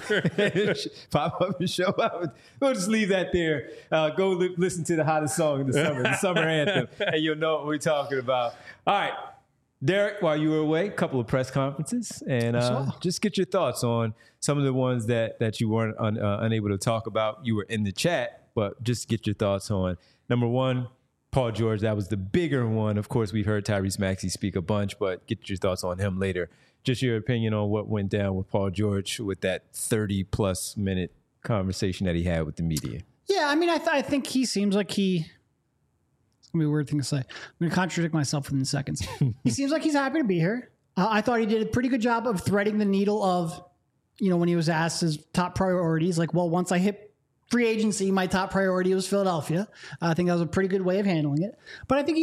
Pop up and show up. We'll just leave that there. Go listen to the hottest song in the summer, the summer anthem, and you'll know what we're talking about. All right. Derek, while you were away, a couple of press conferences, and just get your thoughts on some of the ones that you weren't unable to talk about. You were in the chat, but just get your thoughts on, number one, Paul George. That was the bigger one. Of course, we've heard Tyrese Maxey speak a bunch, but get your thoughts on him later. Just your opinion on what went down with Paul George with that 30-plus minute conversation that he had with the media. Yeah, I mean, I think he seems like he... It's going to be a weird thing to say. I'm going to contradict myself within seconds. He seems like he's happy to be here. I thought he did a pretty good job of threading the needle of, when he was asked his top priorities, like, well, once I hit free agency, my top priority was Philadelphia. I think that was a pretty good way of handling it. But I think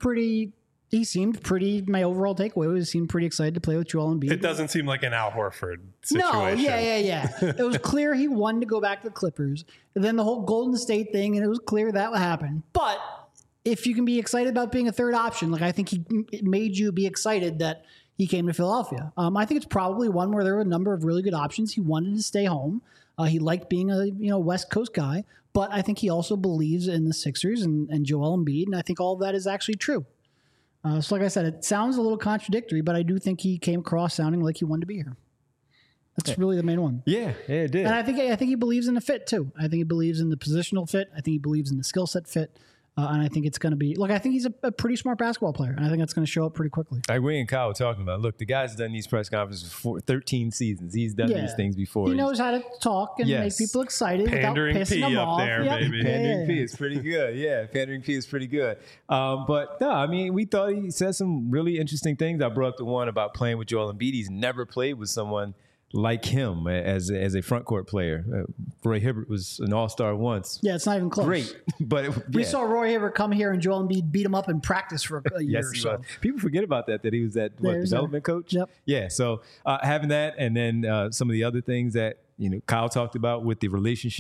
he seemed pretty, my overall takeaway was he seemed pretty excited to play with Joel Embiid. It doesn't seem like an Al Horford situation. No, yeah. It was clear he wanted to go back to the Clippers. And then the whole Golden State thing, and it was clear that would happen. But if you can be excited about being a third option, like I think it made you be excited that he came to Philadelphia. I think it's probably one where there were a number of really good options. He wanted to stay home. He liked being a West Coast guy, but I think he also believes in the Sixers and Joel Embiid, and I think all of that is actually true. So like I said, it sounds a little contradictory, but I do think he came across sounding like he wanted to be here. That's really the main one. Yeah, it did. And I think he believes in the fit too. I think he believes in the positional fit. I think he believes in the skill set fit. And I think it's going to be, I think he's a pretty smart basketball player, and I think that's going to show up pretty quickly. I agree, and Kyle talking about, look, the guy's done these press conferences for 13 seasons. He's done these things before. He knows how to talk and make people excited Pandering without pissing P them up off. there, baby. Pandering P is pretty good. Yeah, Pandering P is pretty good. But no, I mean, we thought he said some really interesting things. I brought up the one about playing with Joel Embiid. He's never played with someone like him as a front court player. Roy Hibbert was an all-star once. Yeah, it's not even close. Great. But we saw Roy Hibbert come here and Joel Embiid beat him up in practice for a year or so. Was. People forget about that he was that development coach? Yep. Yeah, so having that, and then some of the other things that Kyle talked about with the relationship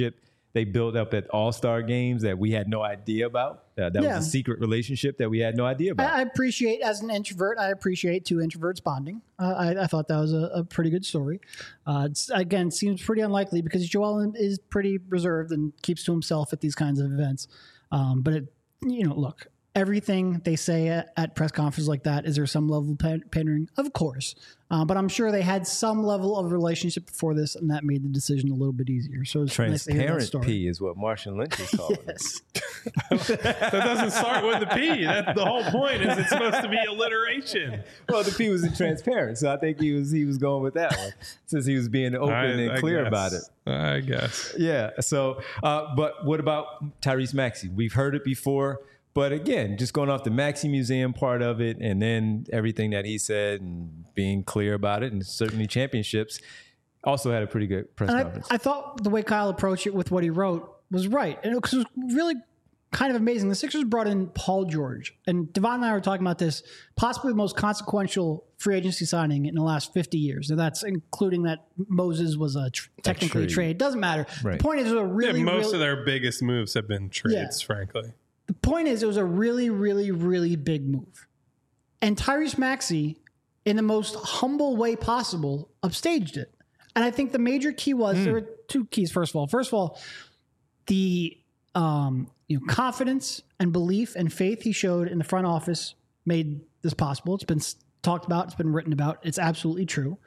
they built up at All-Star games that we had no idea about. That was a secret relationship that we had no idea about. I appreciate, as an introvert, I appreciate two introverts bonding. I thought that was a pretty good story. Again, seems pretty unlikely because Joel is pretty reserved and keeps to himself at these kinds of events. But look, everything they say at press conferences like that, is there some level of pandering? Of course. But I'm sure they had some level of relationship before this, and that made the decision a little bit easier. So it's transparent nice to hear that P is what Marshawn Lynch is calling yes. it. That doesn't start with the P. That's the whole point. Is it's supposed to be alliteration? Well, the P was transparent, so I think he was going with that one since he was being open and clear about it. I guess. Yeah. So, but what about Tyrese Maxey? We've heard it before. But again, just going off the Maxey Museum part of it and then everything that he said and being clear about it, and certainly championships, also had a pretty good press conference. I thought the way Kyle approached it with what he wrote was right. And it was really kind of amazing. The Sixers brought in Paul George. And Devon and I were talking about this, possibly the most consequential free agency signing in the last 50 years. And that's including that Moses was technically a trade. Doesn't matter. Right. The point is, it was a really... most of their biggest moves have been trades, frankly. The point is, it was a really, really, really big move. And Tyrese Maxey, in the most humble way possible, upstaged it. And I think the major key was, there were two keys, first of all. The confidence and belief and faith he showed in the front office made this possible. It's been talked about. It's been written about. It's absolutely true.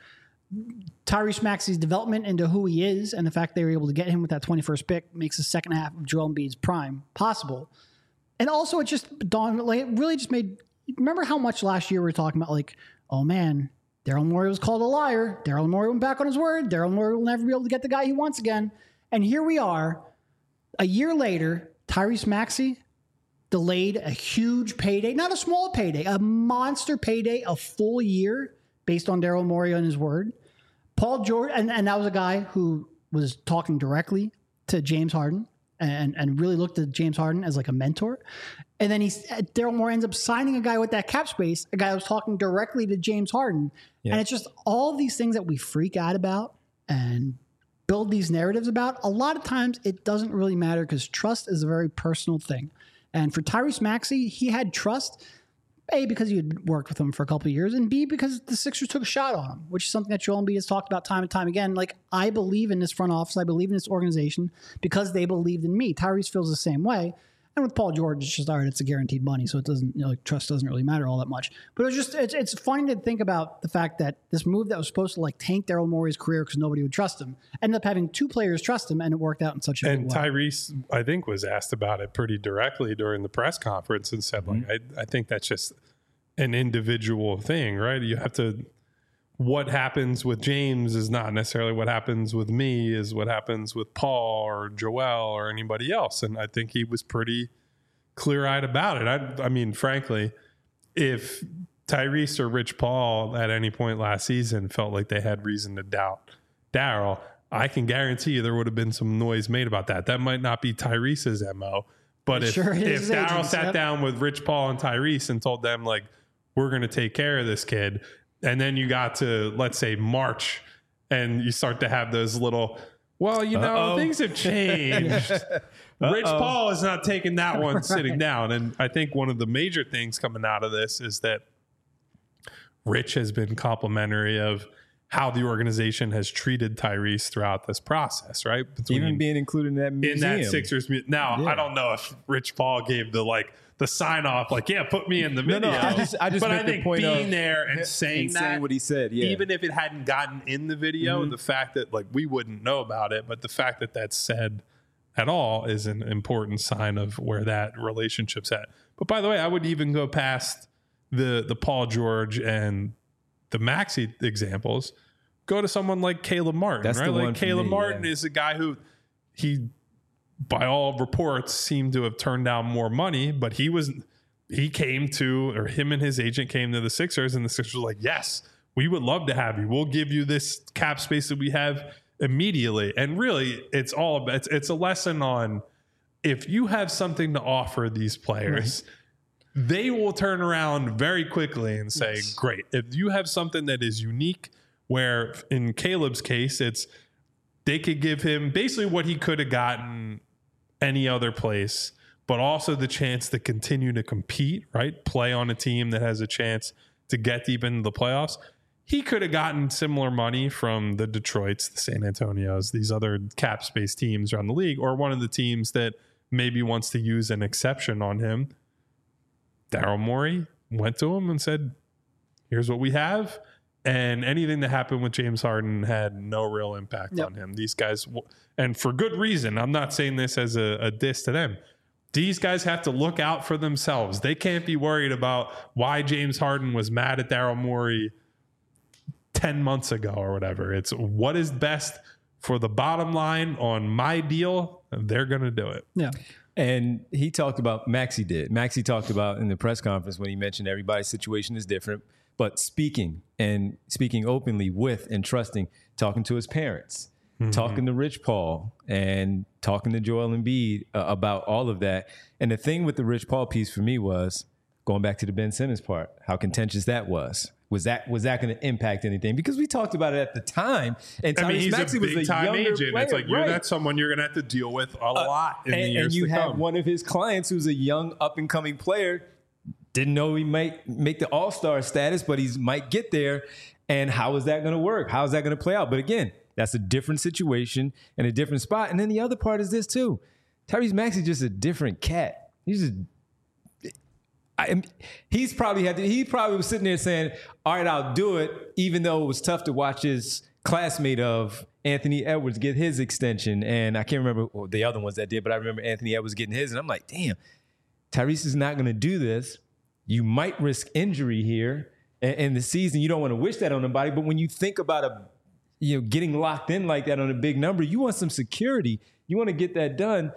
Tyrese Maxey's development into who he is and the fact they were able to get him with that 21st pick makes the second half of Joel Embiid's prime possible. And also, it just dawned, it really just made, remember how much last year we were talking about, oh man, Daryl Morey was called a liar. Daryl Morey went back on his word. Daryl Morey will never be able to get the guy he wants again. And here we are, a year later, Tyrese Maxey delayed a huge payday, not a small payday, a monster payday, a full year based on Daryl Morey and his word. Paul George, and that was a guy who was talking directly to James Harden. And really looked at James Harden as a mentor. And then Daryl Morey ends up signing a guy with that cap space, a guy who was talking directly to James Harden. Yeah. And it's just all of these things that we freak out about and build these narratives about. A lot of times it doesn't really matter because trust is a very personal thing. And for Tyrese Maxey, he had trust, A, because he had worked with him for a couple of years, and B, because the Sixers took a shot on him, which is something that Joel Embiid has talked about time and time again. I believe in this front office. I believe in this organization because they believed in me. Tyrese feels the same way. And with Paul George, it's just, all right, it's a guaranteed money, so it doesn't, trust doesn't really matter all that much. But it's funny to think about the fact that this move that was supposed to tank Daryl Morey's career because nobody would trust him, ended up having two players trust him, and it worked out in such a good way. And Tyrese, I think, was asked about it pretty directly during the press conference and said, I think that's just an individual thing, right? You have to, what happens with James is not necessarily what happens with me, is what happens with Paul or Joel or anybody else. And I think he was pretty clear-eyed about it. I mean, frankly, if Tyrese or Rich Paul at any point last season felt like they had reason to doubt Daryl, I can guarantee you there would have been some noise made about that. That might not be Tyrese's MO, but if Daryl sat down with Rich Paul and Tyrese and told them, we're going to take care of this kid, and then you got to, let's say, March, and you start to have those little, things have changed. Rich Paul is not taking that one sitting down. And I think one of the major things coming out of this is that Rich has been complimentary of how the organization has treated Tyrese throughout this process, right? Even being included in that museum. In that Sixers museum. Now, I don't know if Rich Paul gave the sign off, put me in the video. No, I just but I think the point being there and saying what he said, even if it hadn't gotten in the video, the fact that we wouldn't know about it, but the fact that that's said at all is an important sign of where that relationship's at. But by the way, I would even go past the Paul George and the Maxey examples. Go to someone like Caleb Martin. That's right. Caleb Martin is a guy who by all reports, seemed to have turned down more money, but him and his agent came to the Sixers, and the Sixers were like, yes, we would love to have you. We'll give you this cap space that we have immediately. And really, it's a lesson on, if you have something to offer these players, they will turn around very quickly and say, great. If you have something that is unique, where in Caleb's case, it's, they could give him basically what he could have gotten any other place, but also the chance to continue to compete, right? Play on a team that has a chance to get deep into the playoffs. He could have gotten similar money from the Detroits, the San Antonios, these other cap space teams around the league, or one of the teams that maybe wants to use an exception on him. Daryl Morey went to him and said, here's what we have. And anything that happened with James Harden had no real impact on him. These guys, and for good reason, I'm not saying this as a diss to them. These guys have to look out for themselves. They can't be worried about why James Harden was mad at Daryl Morey 10 months ago or whatever. It's what is best for the bottom line on my deal, and they're going to do it. Yeah. And he talked about, Maxey talked about in the press conference when he mentioned everybody's situation is different, but speaking openly with and trusting, talking to his parents, talking to Rich Paul and talking to Joel Embiid about all of that. And the thing with the Rich Paul piece for me was going back to the Ben Simmons part, how contentious that was. Was that going to impact anything? Because we talked about it at the time. And he's Maxey a big time agent. Player, it's like that's someone you're going to have to deal with a lot in the years to come. And you have one of his clients who's a young up and coming player. Didn't know he might make the All-Star status, but he might get there. And how is that going to work? How is that going to play out? But again, that's a different situation and a different spot. And then the other part is this too. Tyrese Maxey just a different cat. He probably was sitting there saying, all right, I'll do it, even though it was tough to watch his classmate of Anthony Edwards get his extension. And I can't remember the other ones that did, but I remember Anthony Edwards getting his. And I'm like, damn, Tyrese is not going to do this. You might risk injury here in the season. You don't want to wish that on anybody. But when you think about getting locked in like that on a big number, you want some security. You want to get that done.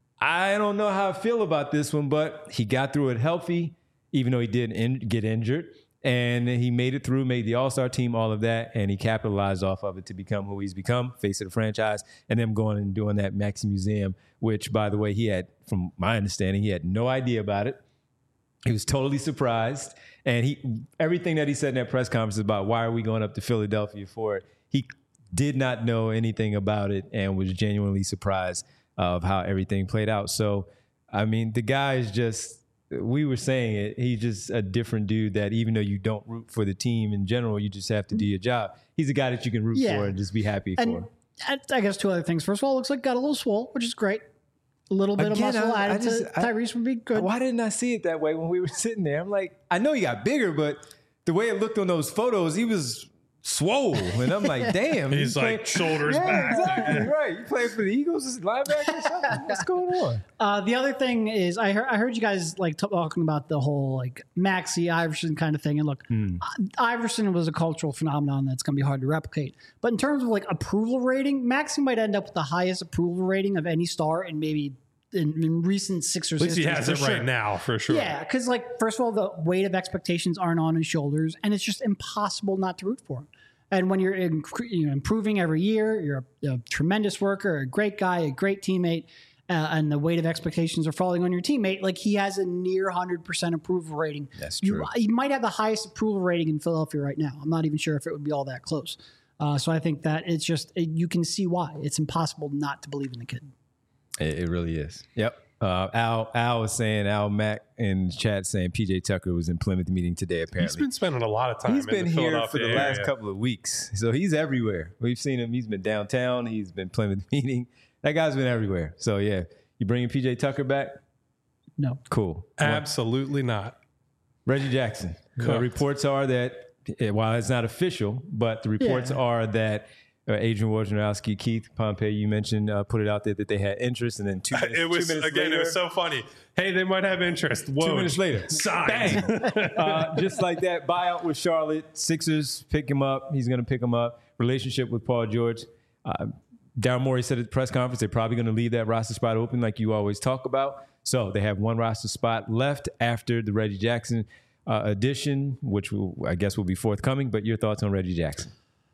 I don't know how I feel about this one, but he got through it healthy, even though he did get injured. And he made it through, made the All-Star team, all of that, and he capitalized off of it to become who he's become, face of the franchise, and then going and doing that Maxey Museum, which, by the way, he had, from my understanding, he had no idea about it. He was totally surprised. And everything that he said in that press conference about why are we going up to Philadelphia for it, he did not know anything about it and was genuinely surprised of how everything played out. So, I mean, the guy is just, we were saying it, he's just a different dude that even though you don't root for the team in general, you just have to do your job. He's a guy that you can root for and just be happy for. I guess two other things. First of all, it looks like got a little swole, which is great. A little bit of muscle added to Tyrese would be good. Why didn't I see it that way when we were sitting there? I'm like, I know he got bigger, but the way it looked on those photos, he was swole. And I'm like, damn. He's like shoulders back. Exactly, right. You playing for the Eagles as linebacker or something? What's going on? The other thing is I heard you guys like talking about the whole like Maxey Iverson kind of thing. And look, Iverson was a cultural phenomenon that's going to be hard to replicate. But in terms of like approval rating, Maxey might end up with the highest approval rating of any star in maybe in recent Sixers history. At least he has it right now, for sure. Yeah, because like first of all, the weight of expectations aren't on his shoulders, and it's just impossible not to root for him. And when you're improving every year, you're a tremendous worker, a great guy, a great teammate, and the weight of expectations are falling on your teammate. Like he has a near 100% approval rating. That's true. He might have the highest approval rating in Philadelphia right now. I'm not even sure if it would be all that close. So I think that it's just you can see why it's impossible not to believe in the kid. It really is. Yep. Al was saying, Al Mack in the chat saying PJ Tucker was in Plymouth meeting today, apparently. He's been spending a lot of time He's been here for the last couple of weeks. So he's everywhere. We've seen him. He's been downtown. He's been Plymouth meeting. That guy's been everywhere. So, yeah. You bringing PJ Tucker back? No. Cool. Absolutely not. Reggie Jackson. Reports are that, while it's not official, but the reports are that Adrian Wojnarowski, Keith Pompey, you mentioned, put it out there that they had interest, and then 2 minutes, it was 2 minutes later, it was so funny. Hey, they might have interest. Whoa. 2 minutes later, signed. Just like that, buyout with Charlotte. Sixers pick him up. He's going to pick him up. Relationship with Paul George. Daryl Morey said at the press conference they're probably going to leave that roster spot open like you always talk about. So they have one roster spot left after the Reggie Jackson addition, which I guess will be forthcoming. But your thoughts on Reggie Jackson?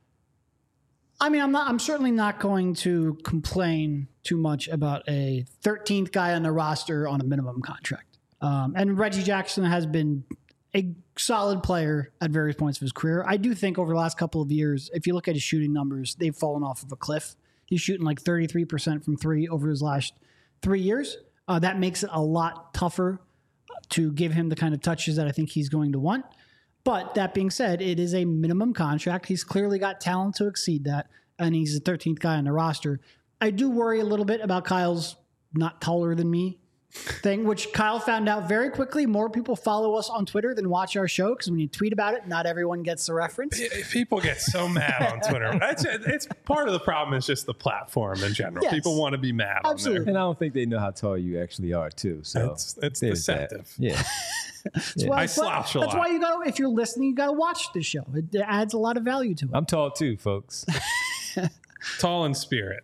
I mean, I'm certainly not going to complain too much about a 13th guy on the roster on a minimum contract. And Reggie Jackson has been a solid player at various points of his career. I do think over the last couple of years, if you look at his shooting numbers, they've fallen off of a cliff. He's shooting like 33% from three over his last 3 years. That makes it a lot tougher to give him the kind of touches that I think he's going to want. But that being said, it is a minimum contract. He's clearly got talent to exceed that, and he's the 13th guy on the roster. I do worry a little bit about Kyle's not taller than me thing, which Kyle found out very quickly. More people follow us on Twitter than watch our show because when you tweet about it, not everyone gets the reference. People get so mad on Twitter. It's part of the problem is just the platform in general. Yes. People want to be mad Absolutely. on there. And I don't think they know how tall you actually are, too. So It's deceptive. Yeah. I slouch a lot. That's why you got to, if you're listening, you got to watch the show. It adds a lot of value to it. I'm tall, too, folks. Tall in spirit.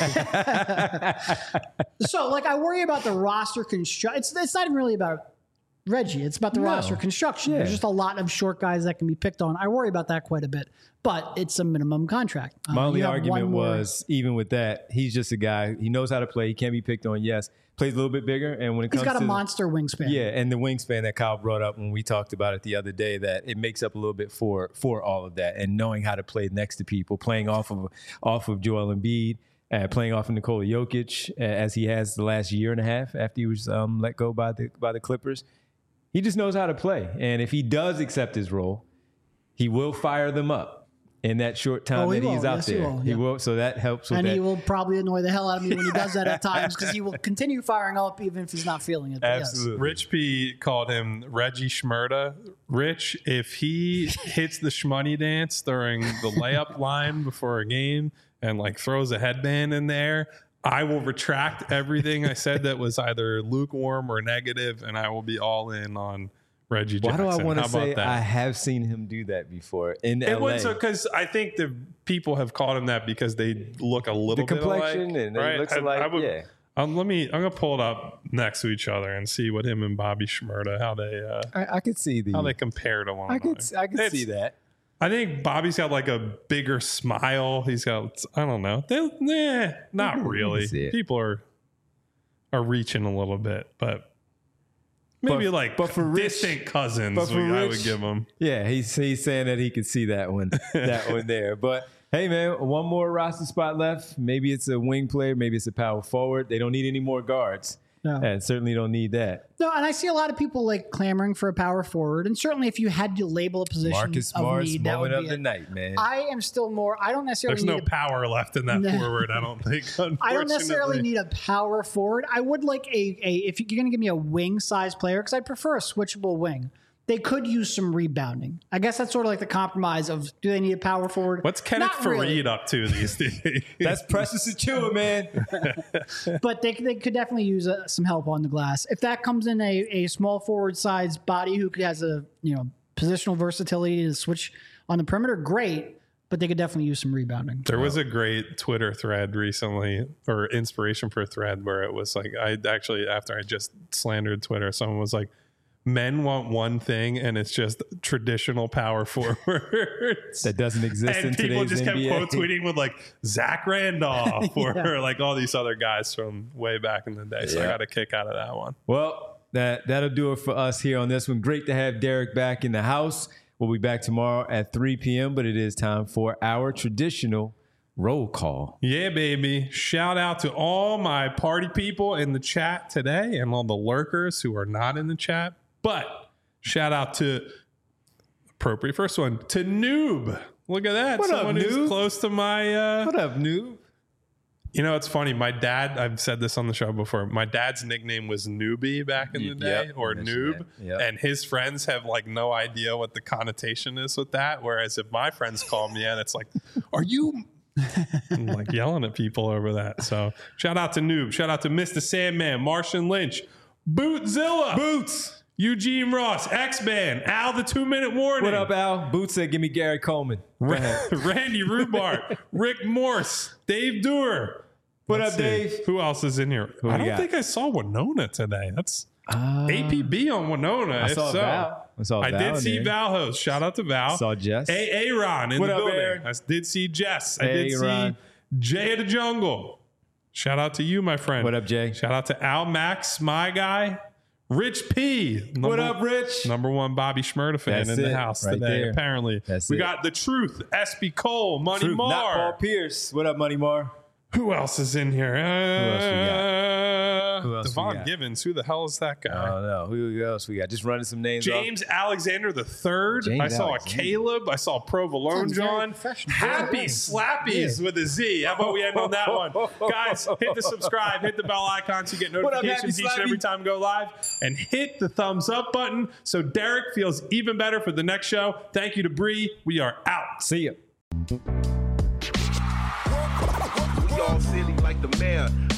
So, like, I worry about the roster construction. It's not even really about Reggie. It's about the roster construction. Yeah. There's just a lot of short guys that can be picked on. I worry about that quite a bit, but it's a minimum contract. My only You have argument one more- was, even with that, he's just a guy. He knows how to play. He can't be picked on. Yes, plays a little bit bigger. And when it he's comes got to a monster wingspan. yeah, and the wingspan that Kyle brought up when we talked about it the other day, that it makes up a little bit for all of that, and knowing how to play next to people, playing off of Joel Embiid, playing off of Nikola Jokic, as he has the last year and a half after he was let go by the Clippers. He just knows how to play, and if he does accept his role, he will fire them up in that short time that he's out there. He will, so that helps with And that. he will probably annoy the hell out of me when he does that at times because he will continue firing up even if he's not feeling it. But Absolutely. yes. Rich P called him Reggie Schmurda. Rich, if he hits the shmoney dance during the layup line before a game and like throws a headband in there, I will retract everything I said that was either lukewarm or negative, and I will be all in on Reggie Jackson. Why do I want How to say about that? I have seen him do that before in LA? It was because I think the people have called him that because they look a little the bit complexion alike, and it right? looks I like would, yeah. I'm gonna pull it up next to each other and see what him and Bobby Schmurda I could see how they compare to one another. I could see that. I think Bobby's got like a bigger smile. He's got, I don't know. Not really. see it. People are reaching a little bit, but maybe but for Rich- distant cousins. but for I Rich- would give him. Yeah, he's saying that he could see that one there. But hey, man, one more roster spot left. Maybe it's a wing player. Maybe it's a power forward. They don't need any more guards. No. And certainly don't need that. No, and I see a lot of people like clamoring for a power forward, and certainly if you had to label a position Marcus of Smart's need, that would moment be of the it. night, man. I am still more. I don't necessarily There's need no power left in that No. forward, I don't think. I don't necessarily unfortunately. need a power forward. I would like if you're going to give me a wing size player, because I prefer a switchable wing. They could use some rebounding. I guess that's sort of like the compromise of, do they need a power forward? What's Kenneth Not really. Faried up to these days? That's Precious Achua, man. But they could definitely use some help on the glass. If that comes in a small forward size body who has a positional versatility to switch on the perimeter, great. But they could definitely use some rebounding. There was a great Twitter thread recently, or inspiration for a thread, where it was like, after I just slandered Twitter, someone was like, men want one thing, and it's just traditional power forwards. That doesn't exist in And people today's just kept NBA. quote tweeting with like Zach Randolph or Yeah. like all these other guys from way back in the day. So I Yeah. got a kick out of that one. Well, that'll do it for us here on this one. Great to have Derek back in the house. We'll be back tomorrow at 3 p.m., but it is time for our traditional roll call. Yeah, baby. Shout out to all my party people in the chat today and all the lurkers who are not in the chat. But shout out to appropriate first one to Noob. Look at that. What up, Someone who's Noob? close to my What up, noob? You know, it's funny. My dad, I've said this on the show before, my dad's nickname was Newbie back in the day, Yep, or you mentioned Noob. that. Yep. And his friends have like no idea what the connotation is with that. Whereas if my friends call me in, it's like, are you I'm like yelling at people over that? So shout out to Noob. Shout out to Mr. Sandman, Martian Lynch, Bootzilla, Boots. Eugene Ross, X-Man, Al the 2-Minute Warning. What up, Al? Boots said, give me Gary Coleman. Go ahead. Randy Rubart, Rick Morse, Dave Dewar. What Let's up, see. Dave? Who else is in here? Who I we don't got? think I saw Winona today. That's APB on Winona. I if saw so. Val. I saw Val did in see there. Val host. Shout out to Val. Saw Jess. Aaron in What the up, building. Aaron? I did see Jess. I Hey, did Aaron. see Jay of the Jungle. Shout out to you, my friend. What up, Jay? Shout out to Al Max, my guy. Rich P. What up, Rich? Number one Bobby Schmurda fan That's in the it, house right today. there. Apparently, That's we it. got the Truth, SB Cole, Money Truth, Mar, not Paul Pierce. What up, Money Mar? Who else is in here? Who else we Devon got? Givens. Who the hell is that guy? I don't know. Who else we got? Just running some names James Alexander III. James I saw Alexander. a Caleb. I saw Provolone Sounds very John. professional. Happy Yeah. Slappies with a Z. How about we end on that one? Guys, hit the subscribe, hit the bell icon so you get What up, notifications Happy each and every Slappy? time we go live. And hit the thumbs up button so Derek feels even better for the next show. Thank you to Bree. We are out. See ya. We all silly like the mayor.